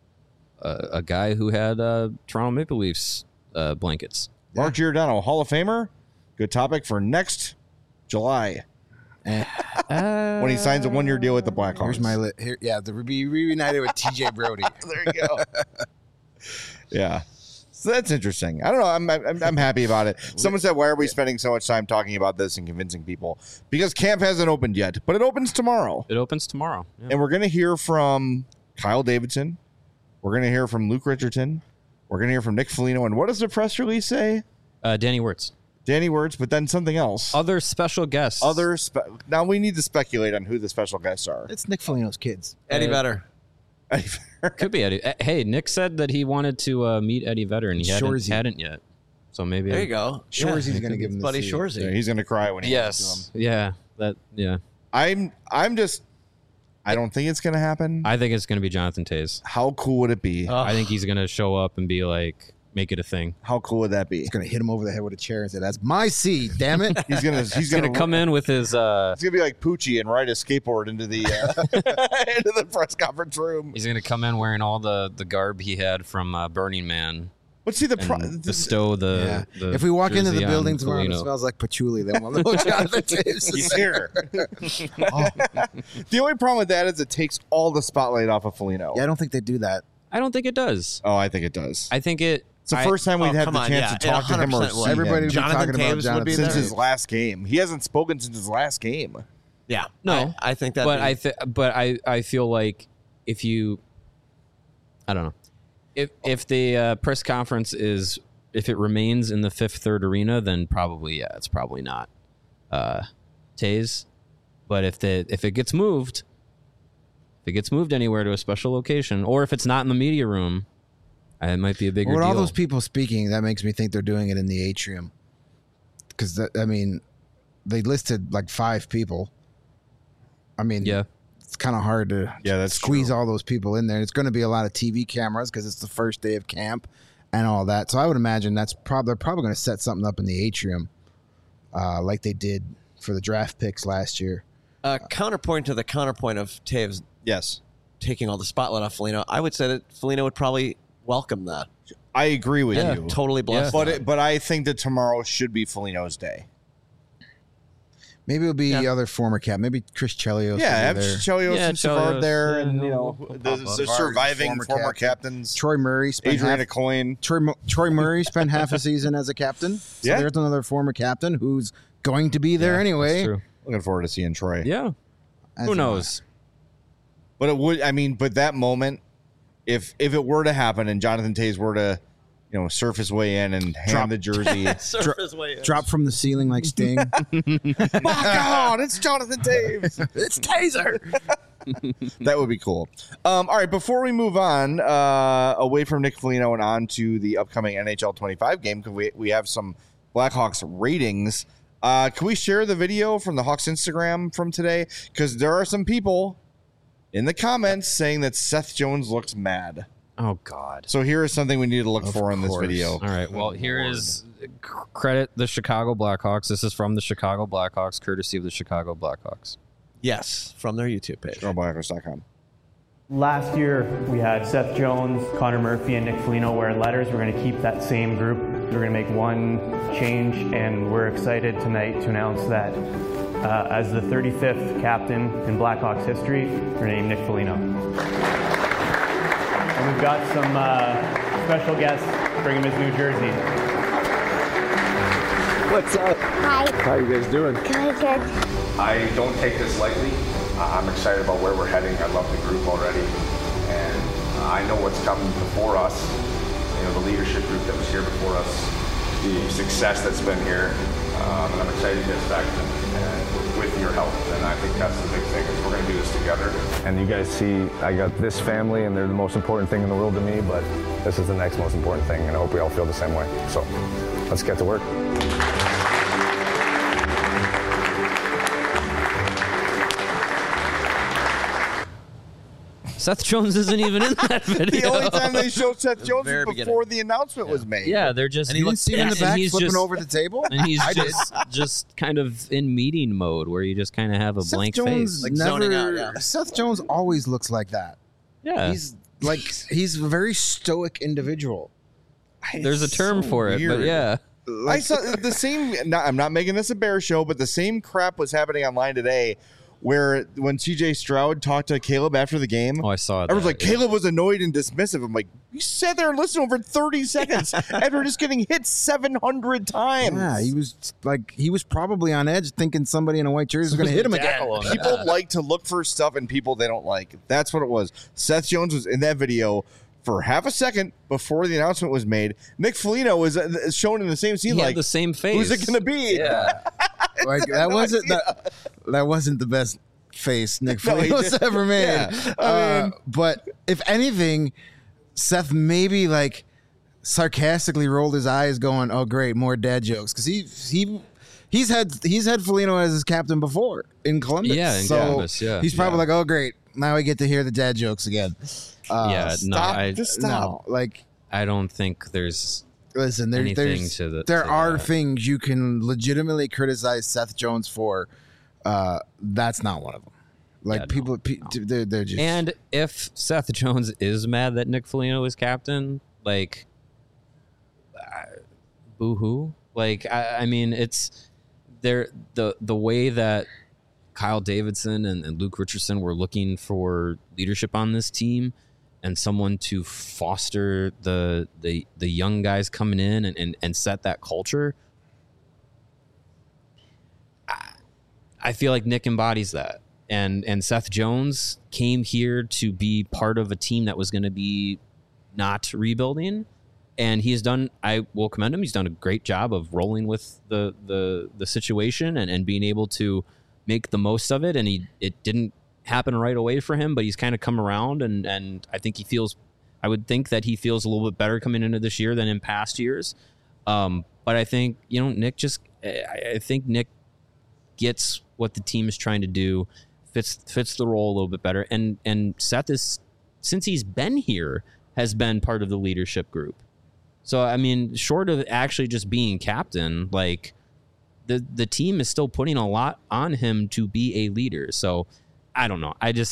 guy who had Toronto Maple Leafs blankets. Mark Giordano, Hall of Famer. Good topic for next July. when he signs a 1-year deal with the Blackhawks. Here's my here. Yeah, the be reunited with TJ Brody. There you go. Yeah. So that's interesting. I don't know. I'm happy about it. Someone said, why are we spending so much time talking about this and convincing people? Because camp hasn't opened yet, but it opens tomorrow. It opens tomorrow. Yeah. And we're going to hear from Kyle Davidson. We're going to hear from Luke Richardson. We're going to hear from Nick Foligno. And what does the press release say? Danny Wirtz. Danny Wirtz, but then something else. Other special guests. Now we need to speculate on who the special guests are. It's Nick Foligno's kids. Eddie Vedder. Could be Eddie. Hey, Nick said that he wanted to meet Eddie Vedder, and he hadn't yet. So maybe There you go. Shoresy's going to give him the Buddy seat. Shoresy. Yeah, he's going to cry when he gets to him. Yeah. I don't think it's going to happen. I think it's going to be Jonathan Toews. How cool would it be? I think he's going to show up and be like, make it a thing. How cool would that be? He's going to hit him over the head with a chair and say, "That's my seat, damn it." He's gonna come in with his. He's gonna be like Poochie and ride a skateboard into the into the press conference room. He's gonna come in wearing all the garb he had from Burning Man. But see and bestow the if we walk into the jersey building on tomorrow and it Foligno. smells like patchouli, then we'll know Jonathan Toews He's is here. The only problem with that is it takes all the spotlight off of Foligno. Yeah, I don't think they do that. I don't think it does. Oh, I think it does. I think it. It's the first time we'd have the chance to talk to him or 100% see will. him Everybody would be Jonathan talking about Toews Jonathan would be since there. his last game. He hasn't spoken since his last game. Yeah. No. I think that. But I feel like if you, I don't know, if the press conference is, if it remains in the Fifth Third Arena, then probably it's probably not Toews. But if it gets moved, anywhere to a special location, or if it's not in the media room, it might be a bigger With deal. all those people speaking, that makes me think they're doing it in the atrium. Because they listed like 5 people. I mean, Yeah. it's kind of hard to that's squeeze true. all those people in there. It's going to be a lot of TV cameras because it's the first day of camp and all that. So I would imagine they're probably going to set something up in the atrium, like they did for the draft picks last year. Counterpoint to the counterpoint of Toews Yes. taking all the spotlight off Foligno, I would say that Foligno would probably welcome that. I agree with Yeah, you. totally blessed. But I think that tomorrow should be Foligno's day. Maybe it'll be other former cap. Maybe Chris Chelios. Yeah, have will be there. Chelios and Savard Chelios, there, yeah, and the Savard, surviving former captain. captains. Troy Murray spent Adrian Coyne. Troy Murray spent half a season as a captain. So Yeah. there's another former captain who's going to be there anyway. That's true. Looking forward to seeing Troy. Yeah. As Who am knows? But it would. I mean, but that moment, if it were to happen, and Jonathan Toews were to, surf his way in and hand the jersey. Drop from the ceiling like Sting. My God, it's Jonathan Toews. It's Taser. That would be cool. All right, before we move on, away from Nick Foligno and on to the upcoming NHL 25 game, because we have some Blackhawks ratings. Can we share the video from the Hawks Instagram from today? Because there are some people in the comments saying that Seth Jones looks mad. Oh God. So here is something we need to look for in this video. All right. Well, here is credit the Chicago Blackhawks. This is from the Chicago Blackhawks, courtesy of the Chicago Blackhawks. Yes, from their YouTube page. GoBlackhawks.com. Last year, we had Seth Jones, Connor Murphy, and Nick Foligno wearing letters. We're going to keep that same group. We're going to make one change, and we're excited tonight to announce that as the 35th captain in Blackhawks history, we're going to name Nick Foligno. And we've got some special guests bring him his new jersey. What's up? Hi. How you guys doing? Good. I don't take this lightly. I'm excited about where we're heading. I love the group already. And I know what's coming before us. The leadership group that was here before us, the success that's been here. And I'm excited to get us back and with your help. And I think that's the big thing is we're going to do this together. And you guys see, I got this family, and they're the most important thing in the world to me, but this is the next most important thing, and I hope we all feel the same way. So let's get to work. Seth Jones isn't even in that video. The only time they showed Seth Jones very was before the announcement was made. Yeah, they're just. And you didn't see him in the and back he's flipping just- over the table? And he's just kind of in meeting mode where you just kind of have a Seth blank Jones face. Like zoning out, yeah. Seth Jones always looks like that. Yeah, He's a very stoic individual. there's a term so for it, but weird. yeah. I saw the same. I'm not making this a bear show, but the same crap was happening online today, where when CJ Stroud talked to Caleb after the game, Oh, I saw it. I was like, Caleb was annoyed and dismissive. I'm like, you sat there and listened over 30 seconds after just getting hit 700 times. Yeah, he was probably on edge, thinking somebody in a white jersey was going to hit him again. People like to look for stuff in people they don't like. That's what it was. Seth Jones was in that video for half a second before the announcement was made. Nick Foligno was shown in the same scene. He like had the same face. Who's it going to be? Yeah. Like that wasn't the best face Nick Foligno's ever made. Yeah. But if anything, Seth maybe like sarcastically rolled his eyes, going, "Oh, great, more dad jokes," because he's had Foligno as his captain before in Columbus. Yeah, in Columbus. Yeah, he's probably like, "Oh, great, now I get to hear the dad jokes again." Stop. No, like I don't think there's. Listen, there are things you can legitimately criticize Seth Jones for. That's not one of them. Like they're just. And if Seth Jones is mad that Nick Foligno is captain, like, boo-hoo. Like, I mean, it's there. The way that Kyle Davidson and Luke Richardson were looking for leadership on this team. And someone to foster the young guys coming in and set that culture. I feel like Nick embodies that. And Seth Jones came here to be part of a team that was going to be not rebuilding. And he has done, I will commend him, he's done a great job of rolling with the situation and being able to make the most of it. And it didn't happen right away for him, but he's kind of come around and I think I would think that he feels a little bit better coming into this year than in past years. But I think, Nick I think Nick gets what the team is trying to do, fits the role a little bit better. And Seth is, since he's been here, has been part of the leadership group. So, I mean, short of actually just being captain, like the team is still putting a lot on him to be a leader. So, I don't know.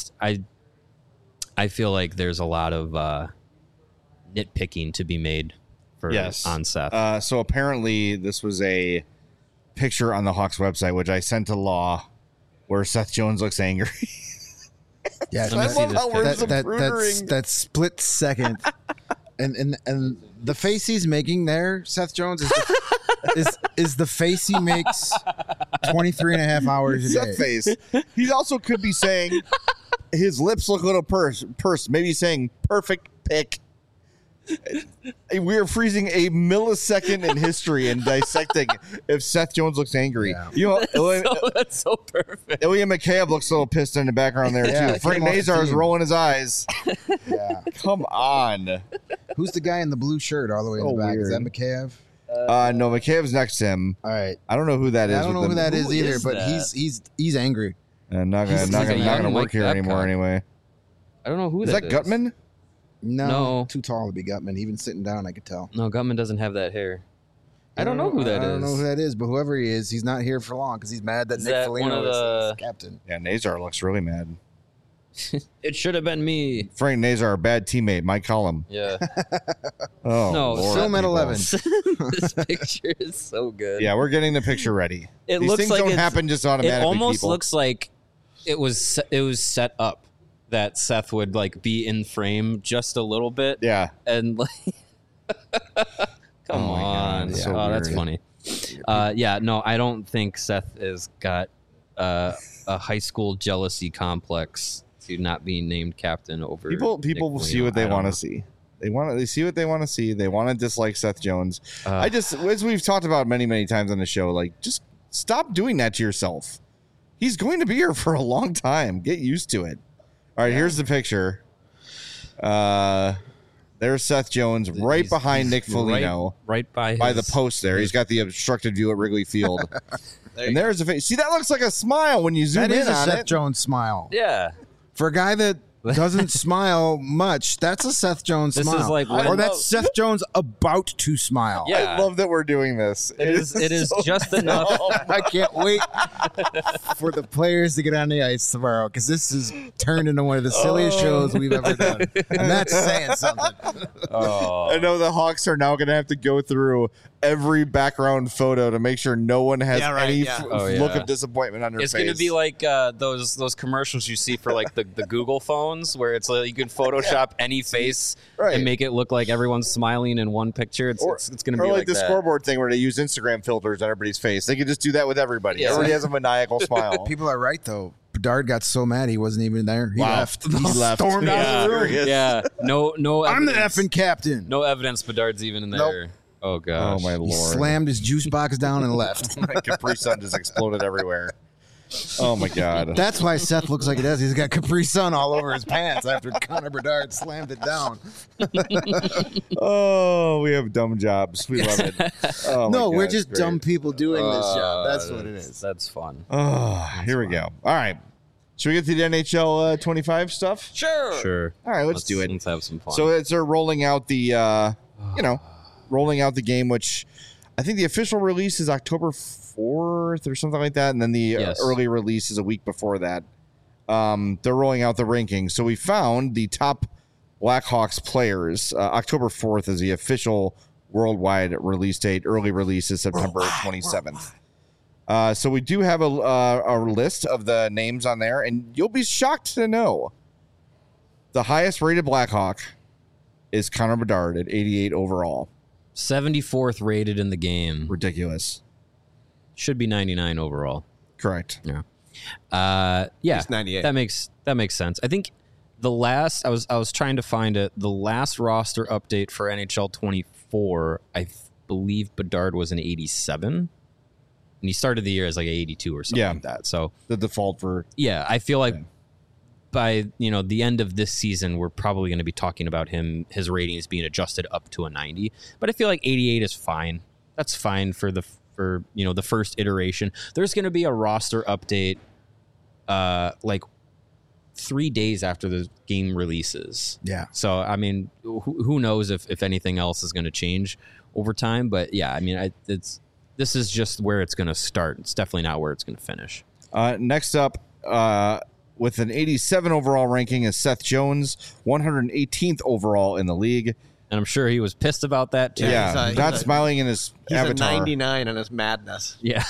I feel like there's a lot of nitpicking to be made on Seth. So apparently this was a picture on the Hawks website, which I sent to Law, where Seth Jones looks angry. Yeah, I love how we're zaprudering. that split second, and the face he's making there, Seth Jones, is the face he makes 23 and a half hours a day. Seth face. He also could be saying his lips look a little pursed. Maybe saying perfect pick. We are freezing a millisecond in history and dissecting if Seth Jones looks angry. Yeah. That's so perfect. Ilya McCabe looks a little pissed in the background there too. Frank Nazar is rolling his eyes. Yeah. Come on. Who's the guy in the blue shirt all the way in the back? Weird. Is that McCabe? No, McCabe's next to him. All right. I don't know who that is. I don't know who that is either, but that? he's angry. Not He's like a gonna young work Mike here anymore Babcock. anyway. I don't know who Is that Gutman? No, too tall to be Gutman. Even sitting down, I could tell. No, Gutman doesn't have that hair. I don't know who that is. I don't know who that is, but whoever he is, he's not here for long because he's mad that Is Nick that Foligno one of is captain. Yeah, Nazar looks really mad. It should have been me. Frank Nazar, a bad teammate. Mike Cullum. Yeah. Oh, No, Lord, film at people. 11. This picture is so good. Yeah, we're getting the picture ready. It These looks things like don't it's- happen just automatically. It almost people. looks like it was set up that Seth would like be in frame just a little bit. Yeah. And like, come Oh my God, on. it's so That's weird. funny. Yeah, no, I don't think Seth has got a high school jealousy complex to not being named captain over People Nick will see Foligno. what they I don't want know. to see. They see what they want to see. They want to dislike Seth Jones. Uh, I just, as we've talked about many times on the show, like just stop doing that to yourself. He's going to be here for a long time. Get used to it. All right, here's the picture. There's Seth Jones right He's- behind he's Nick Foligno right by the his- post there. He's got the obstructed view at Wrigley Field. And there's a face. See, that looks like a smile when you zoom That in is a on Seth it. Jones smile. Yeah. For a guy that doesn't smile much, that's a Seth Jones This smile. is like or when- that's Seth Jones about to smile. Yeah. I love that we're doing this. It is so just enough. I can't wait for the players to get on the ice tomorrow because this is turned into one of the silliest shows we've ever done. And that's saying something. Oh. I know the Hawks are now going to have to go through every background photo to make sure no one has any look of disappointment on their face. It's going to be like those commercials you see for like the Google phones where it's like you can Photoshop any face and make it look like everyone's smiling in one picture. It's going to be like the that. scoreboard thing where they use Instagram filters on everybody's face. They could just do that with everybody. Yeah. Everybody has a maniacal smile. People are right though. Bedard got so mad he wasn't even there. He left. He left. Stormed out of the room. Yeah. No. I'm the evidence. effing captain. No evidence Bedard's even in there. Nope. Oh gosh. Oh my lord. He slammed his juice box down and left. My Capri Sun just exploded everywhere. Oh my god. That's why Seth looks like he does. He's got Capri Sun all over his pants after Connor Bedard slammed it down. Oh, we have dumb jobs. We love it. Oh, No, my we're God, just it's great. dumb people doing this job. That's what it is. That's fun. Oh, here we go. All right. Should we get to the NHL 25 stuff? Sure. All right, let's do it. Let's have some fun. So they're rolling out the, rolling out the game, which I think the official release is October 4th or something like that. And then the early release is a week before that. They're rolling out the rankings. So we found the top Blackhawks players. October 4th is the official worldwide release date. Early release is September 27th. So we do have a list of the names on there, and you'll be shocked to know the highest rated Blackhawk is Connor Bedard at 88 overall. 74th rated in the game. Ridiculous. Should be 99 overall. Correct. Yeah. He's 98. That makes sense. I think the last I was trying to find it. The last roster update for NHL 24, I believe Bedard was an 87. And he started the year as like 82 or something like that. So the default for I feel like by the end of this season, we're probably going to be talking about his ratings being adjusted up to a 90. But I feel like 88 is fine. That's fine for the first iteration. There's going to be a roster update, like 3 days after the game releases. Yeah. So I mean, who knows if anything else is going to change over time? But yeah, I mean, this is just where it's going to start. It's definitely not where it's going to finish. Next up, with an 87 overall ranking is Seth Jones, 118th overall in the league. And I'm sure he was pissed about that too. Yeah, not smiling in his avatar. He's a 99 in his madness. Yeah.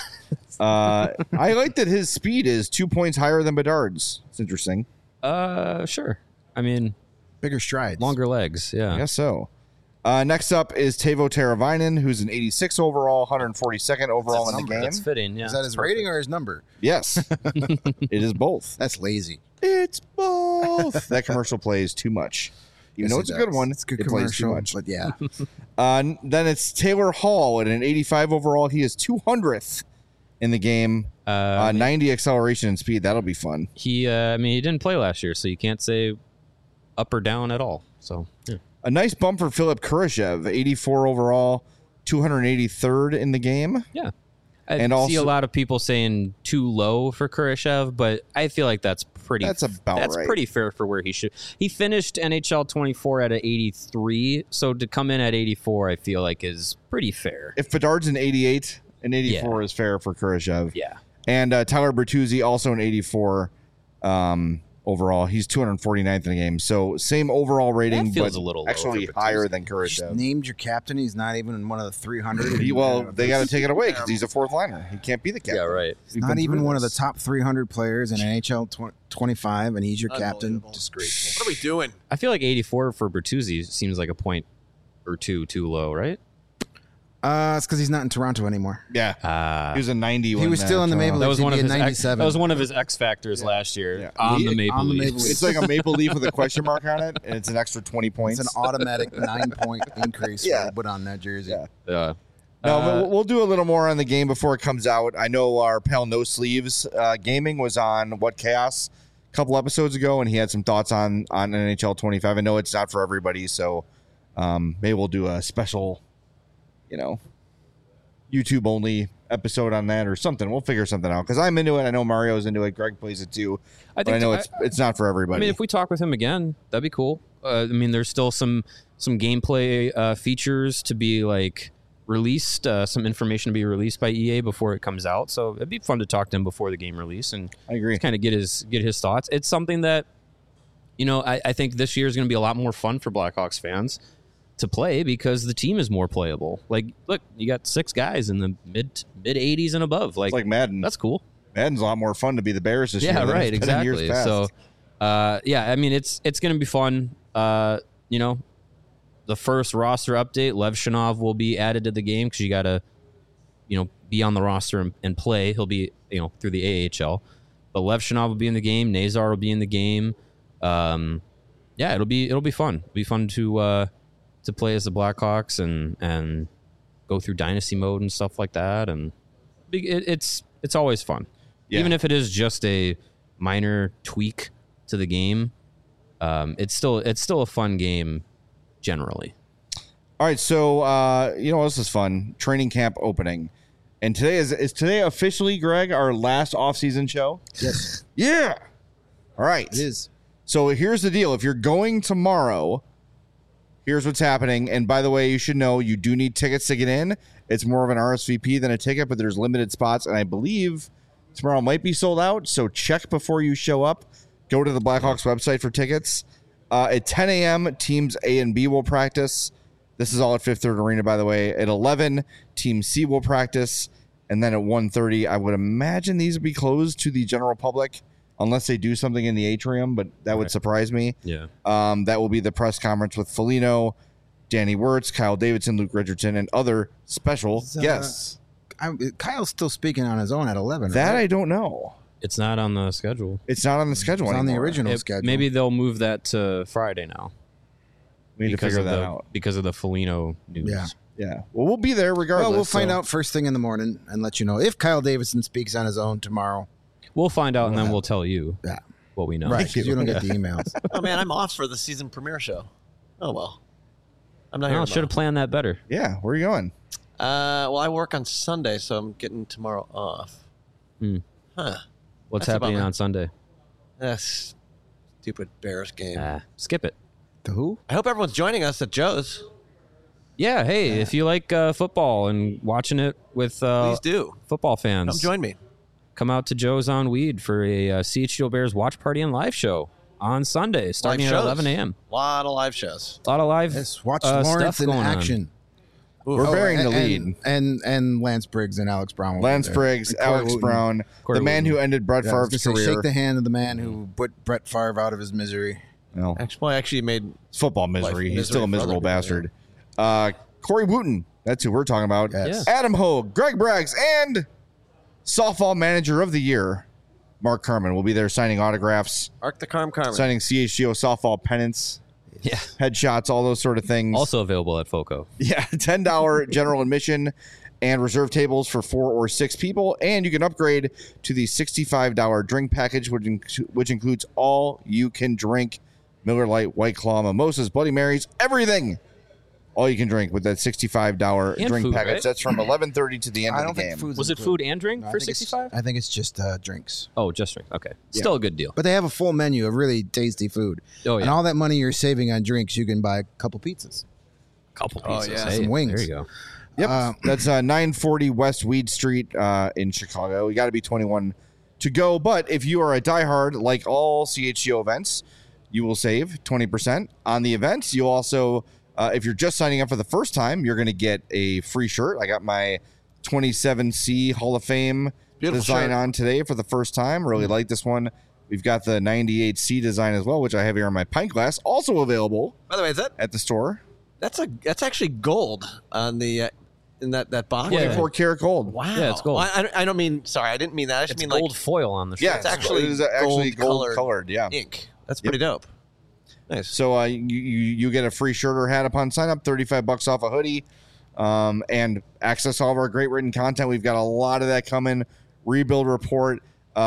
I like that his speed is 2 points higher than Bedard's. It's interesting. Sure. I mean, bigger strides, longer legs. Yeah, I guess so. Next up is Teuvo Teravainen, who's an 86 overall, 142nd overall in the game. That's fitting. Yeah. Is that his rating or his number? Yes, it is both. That's lazy. It's both. That commercial plays too much. You know, it's a good one. It's a good it plays too commercial, much. but yeah. Then it's Taylor Hall at an 85 overall. He is 200th in the game. 90 acceleration and speed. That'll be fun. He didn't play last year, so you can't say up or down at all. So yeah. A nice bump for Philip Kurashev, 84 overall, 283rd in the game. Yeah. I see a lot of people saying too low for Kurashev, but I feel like that's right. Pretty fair for where he should. He finished NHL 24 at an 83, so to come in at 84, I feel like is pretty fair. If Bedard's an 88, an 84 is fair for Kurashev. Yeah. And Tyler Bertuzzi, also an 84 overall. He's 249th in the game. So same overall rating, That feels but a little low actually for higher Bertuzzi. than Kurashev. Named your captain. He's not even in one of the 300. They got to take it away because he's a fourth liner. He can't be the captain. Yeah, right. He's not even one of the top 300 players in NHL 25, and he's your captain. Disgraceful. What are we doing? I feel like 84 for Bertuzzi seems like a point or two too low, right? It's because he's not in Toronto anymore. Yeah. He was a 90. He was still in the Maple Leafs. That was one of He'd his be a 97. That was one of his X factors last year on the Maple Leafs. It's like a maple leaf with a question mark on it, and it's an extra 20 points. It's an automatic 9-point increase Yeah. put on that jersey. Yeah. Yeah. No, but we'll do a little more on the game before it comes out. I know our pal No Sleeves Gaming was on What Chaos a couple episodes ago, and he had some thoughts on NHL 25. I know it's not for everybody, so maybe we'll do a special, YouTube only episode on that or something. We'll figure something out because I'm into it. I know Mario's into it. Greg plays it too. But I know it's not for everybody. I mean, if we talk with him again, that'd be cool. There's still some gameplay features to be like released, some information to be released by EA before it comes out. So it'd be fun to talk to him before the game release and I agree. Kind of get his thoughts. It's something that I think this year is going to be a lot more fun for Blackhawks fans. to play because the team is more playable. Like, look, you got 6 guys in the mid 80s and above. It's like Madden. That's cool. Madden's a lot more fun to be the Bears this year. Yeah, than right, it's been in exactly. years past. So, I mean, it's going to be fun. You know, the first roster update, Lev Shanov will be added to the game because you got to, you know, be on the roster and play. He'll be, you know, through the AHL. But Lev Shanov will be in the game. Nazar will be in the game. Yeah, it'll be fun. It'll be fun to play as the Blackhawks and go through dynasty mode and stuff like that. And it's always fun, even if it is just a minor tweak to the game. It's still a fun game generally. All right, so you know this is fun. Training camp opening, and today is today officially, Greg, our last off-season show. Yes. Yeah. All right. It is. So here's the deal. If you're going tomorrow, here's what's happening. And by the way, you should know you do need tickets to get in. It's more of an RSVP than a ticket, but there's limited spots. And I believe tomorrow might be sold out. So check before you show up. Go to the Blackhawks website for tickets. At 10 a.m., teams A and B will practice. This is all at Fifth Third Arena, by the way. At 11, Team C will practice. And then at 1:30, I would imagine these would be closed to the general public. Unless they do something in the atrium, but that would surprise me. Yeah. That will be the press conference with Foligno, Danny Wirtz, Kyle Davidson, Luke Richardson, and other special guests. Kyle's still speaking on his own at 11. That right? I don't know. It's not on the schedule. It's not on the schedule It's on the anymore. original schedule. Maybe they'll move that to Friday now. We need to figure that out. Because of the Foligno news. Yeah. Yeah. Well, we'll be there regardless. Well, we'll find so- out first thing in the morning and let you know if Kyle Davidson speaks on his own tomorrow. We'll find out and then we'll tell you Yeah. what we know. Right, because you don't get the emails. Oh man, I'm off for the season premiere show. Oh well, I'm not here. No, should have planned that better. Yeah. Where are you going? Well, I work on Sunday, so I'm getting tomorrow off. Huh? What's That's a happening bummer. on Sunday? That's stupid Bears game. Skip it. The who? I hope everyone's joining us at Joe's. Yeah, hey, if you like football and watching it with Please do. football fans, Come join me. come out to Joe's on Weed for a CHGO Bears watch party and live show on Sunday, starting Live at shows. 11 a.m. A lot of live shows. A lot of live Let's watch stuff Lawrence in going on. action. We're bearing the and- lead. And Lance Briggs and Alex Brown. will be Lance there. Briggs, And Corey Alex Wooten. Brown, Corey the man Wooten. who ended Brett Yeah, I was Favre's gonna say, career. shake the hand of the man who put Brett Favre out of his misery. No, I actually made it's football misery. He's misery still a for miserable other people, bastard. Corey Wooten. That's who we're talking about. Yes. Adam Hogue, Greg Braggs, and softball manager of the year, Mark Carman, will be there signing autographs, Arc the Carmen. signing CHGO softball pennants, Yeah. headshots, all those sort of things. Also available at FOCO. Yeah, $10 general admission and reserve tables for 4 or 6 people. And you can upgrade to the $65 drink package, which includes all you can drink Miller Lite, White Claw, mimosas, Bloody Marys, everything. All you can drink with that $65 And drink food, package. right? That's from 11:30 to the end I of don't the think game. food's Was it included. food and drink No, I for think it's- 65? I think it's just drinks. Oh, just drink. Okay. Still a good deal. But they have a full menu of really tasty food. Oh, And yeah. all that money you're saving on drinks, you can buy a couple pizzas. Couple Oh, pieces. yeah. Hey, Some wings. There you go. Yep. That's 940 West Weed Street in Chicago. You got to be 21 to go. But if you are a diehard, like all CHGO events, you will save 20% on the events. You'll also, if you're just signing up for the first time, you're going to get a free shirt. I got my 27C Hall of Fame Beautiful design shirt. on today for the first time. Really like this one. We've got the 98C design as well, which I have here on my pint glass, also available By the way, is that at the store. that's actually gold on the in that box. Yeah. 24 karat gold. Wow. Yeah, it's gold. Well, I don't mean. Sorry, I didn't mean that. I just It's mean gold like foil on the shirt. Yeah, It's actually it is actually gold gold-colored colored. Yeah. ink. That's pretty dope. Nice. So you get a free shirt or hat upon sign up, $35 off a hoodie, and access all of our great written content. We've got a lot of that coming. Rebuild report.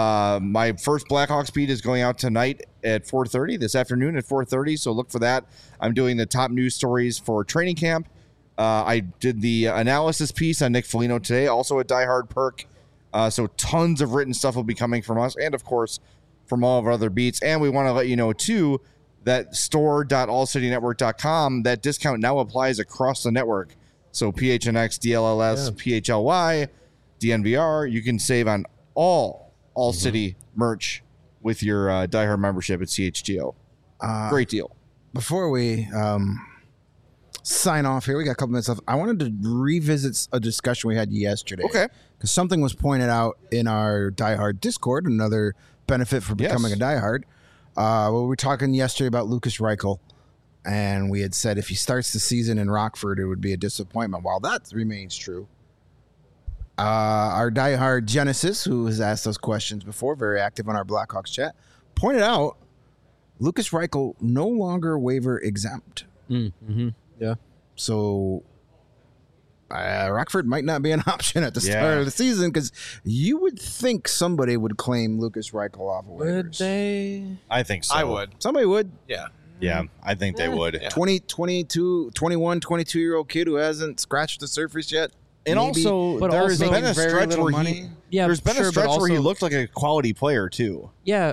My first Blackhawks beat is going out tonight at 4:30 this afternoon at 4:30. So look for that. I'm doing the top news stories for training camp. I did the analysis piece on Nick Foligno today, also a diehard perk. So tons of written stuff will be coming from us, and of course from all of our other beats. And we want to let you know too that store.allcitynetwork.com, that discount now applies across the network. So PHNX, DLLS, PHLY, DNVR, you can save on all City merch with your diehard membership at CHGO. Great deal. Before we sign off here. We got a couple minutes left. I wanted to revisit a discussion we had yesterday. Okay. Because something was pointed out in our Die Hard Discord, another benefit for becoming a Die Hard. We were talking yesterday about Lucas Reichel, and we had said if he starts the season in Rockford, it would be a disappointment. While that remains true, our Die Hard Genesis, who has asked us questions before, very active on our Blackhawks chat, pointed out Lucas Reichel no longer waiver exempt. Mm-hmm. Yeah. So Rockford might not be an option at the start of the season because you would think somebody would claim Lucas Reichel off of waivers. Would they? I think so. I would. Somebody would. Yeah. Yeah, I think they would. Yeah. 22-year-old kid who hasn't scratched the surface yet. And Maybe, also, but there's also been a very stretch little where money. there's been sure, a stretch but where he also- looked like a quality player too. Yeah.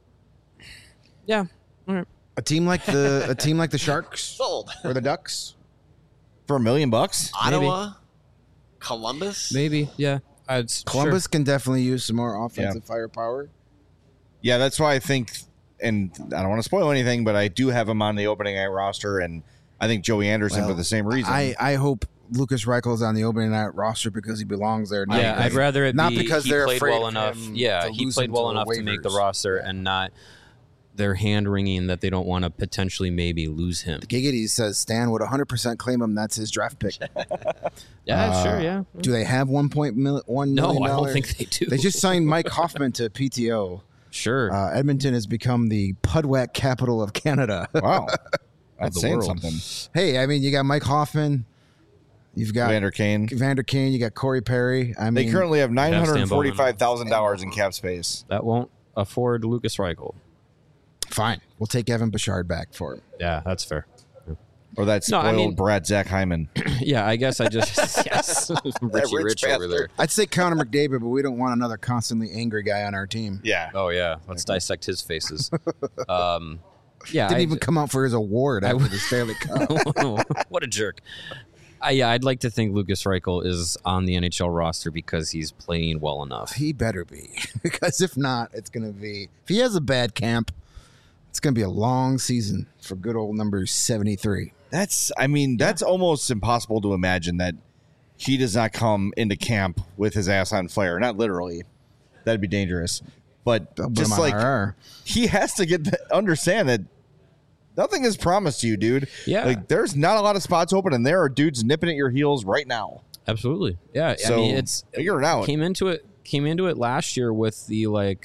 Yeah. All right. a team like the Sharks Sold. or the Ducks. For $1 million bucks? Ottawa, Columbus. Maybe. Yeah. Columbus can definitely use some more offensive firepower. Yeah, that's why I think, and I don't want to spoil anything, but I do have him on the opening night roster, and I think Joey Anderson for the same reason. I hope Lucas Reichel's on the opening night roster because he belongs there. Yeah, I'd rather it not be because he they're played afraid well of enough. him Yeah, to he lose played him well to enough to make the waivers. roster and not their hand wringing that they don't want to potentially maybe lose him. Giggity says Stan would 100% claim him. That's his draft pick. Yeah, sure, yeah. Do they have $1 million? No, I don't think they do. They just signed Mike Hoffman to PTO. Sure. Edmonton has become the Pudwack capital of Canada. Wow. That's the saying world. something. Hey, I mean, you got Mike Hoffman. You've got Vander Kane. You got Corey Perry. I They mean, currently have Stan Bowman. $945,000 in cap space. That won't afford Lucas Reichel. fine. We'll take Evan Bouchard back for him. Yeah, that's fair. Or that No, spoiled I mean- Brad Zach Hyman. Yeah, I guess I just yes, Richie rich Rich over bastard. there. I'd say Connor McDavid, but we don't want another constantly angry guy on our team. Yeah. Oh yeah, let's dissect his faces. Yeah, Didn't even come out for his award after the Stanley Cup. what a jerk. Yeah, I'd like to think Lucas Reichel is on the NHL roster because he's playing well enough. He better be, because if not, it's going to be. If he has a bad camp, it's going to be a long season for good old number 73. That's almost impossible to imagine that he does not come into camp with his ass on fire. Not literally. That'd be dangerous. But They'll put just him on like IR. he has to understand that nothing is promised to you, dude. Yeah. Like there's not a lot of spots open and there are dudes nipping at your heels right now. Absolutely. Yeah, So I mean it's figure it out. Came into it last year with the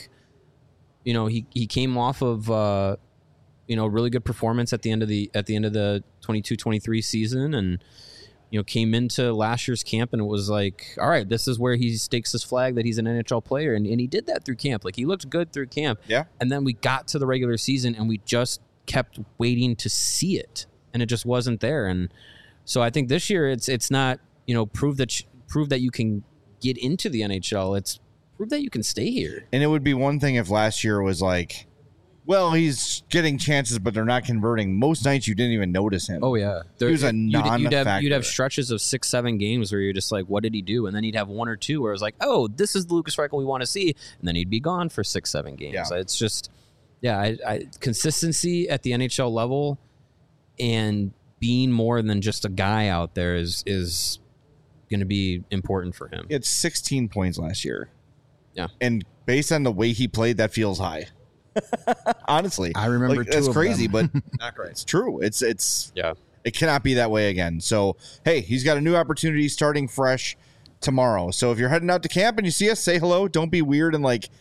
he came off of really good performance at the end of the 22-23 season, and came into last year's camp and it was like, all right, this is where he stakes his flag that he's an NHL player, and he did that through camp. Like he looked good through camp. Yeah. And then we got to the regular season and we just kept waiting to see it, and it just wasn't there. And so I think this year it's not prove that you can get into the NHL. It's prove that you can stay here. And it would be one thing if last year was like, well, he's getting chances, but they're not converting. Most nights you didn't even notice him. Oh yeah, He was a non-factor. You'd have stretches of 6-7 games where you're just like, what did he do? And then he'd have one or two where it was like, oh, this is the Lucas Reichel we want to see, and then he'd be gone for 6-7 games. Yeah. It's just, consistency at the NHL level and being more than just a guy out there is going to be important for him. He had 16 points last year. Yeah. And based on the way he played, that feels high. Honestly. I remember two that's of crazy, them. but Not great. it's true. It's Yeah. it cannot be that way again. So, hey, he's got a new opportunity starting fresh tomorrow. So if you're heading out to camp and you see us, say hello. Don't be weird and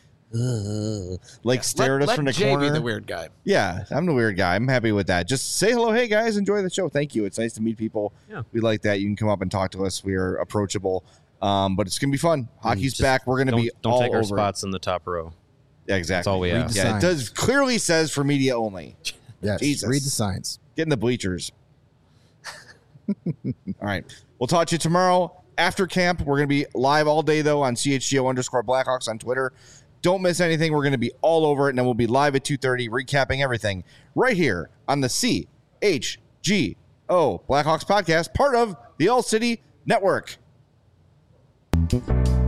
stare at us from the Jay corner. be the weird guy. Yeah, I'm the weird guy. I'm happy with that. Just say hello. Hey, guys, enjoy the show. Thank you. It's nice to meet people. Yeah. We like that. You can come up and talk to us. We are approachable. But it's going to be fun. Hockey's Just back. We're going to be don't all take our over it. spots in the top row. Yeah, exactly. That's all we have. the Yeah, it signs. does clearly says for media only. Yes, Jesus. read the signs. Get in the bleachers. All right. We'll talk to you tomorrow after camp. We're going to be live all day, though, on CHGO_Blackhawks on Twitter. Don't miss anything. We're going to be all over it, and then we'll be live at 2:30 recapping everything right here on the CHGO Blackhawks podcast, part of the All City Network.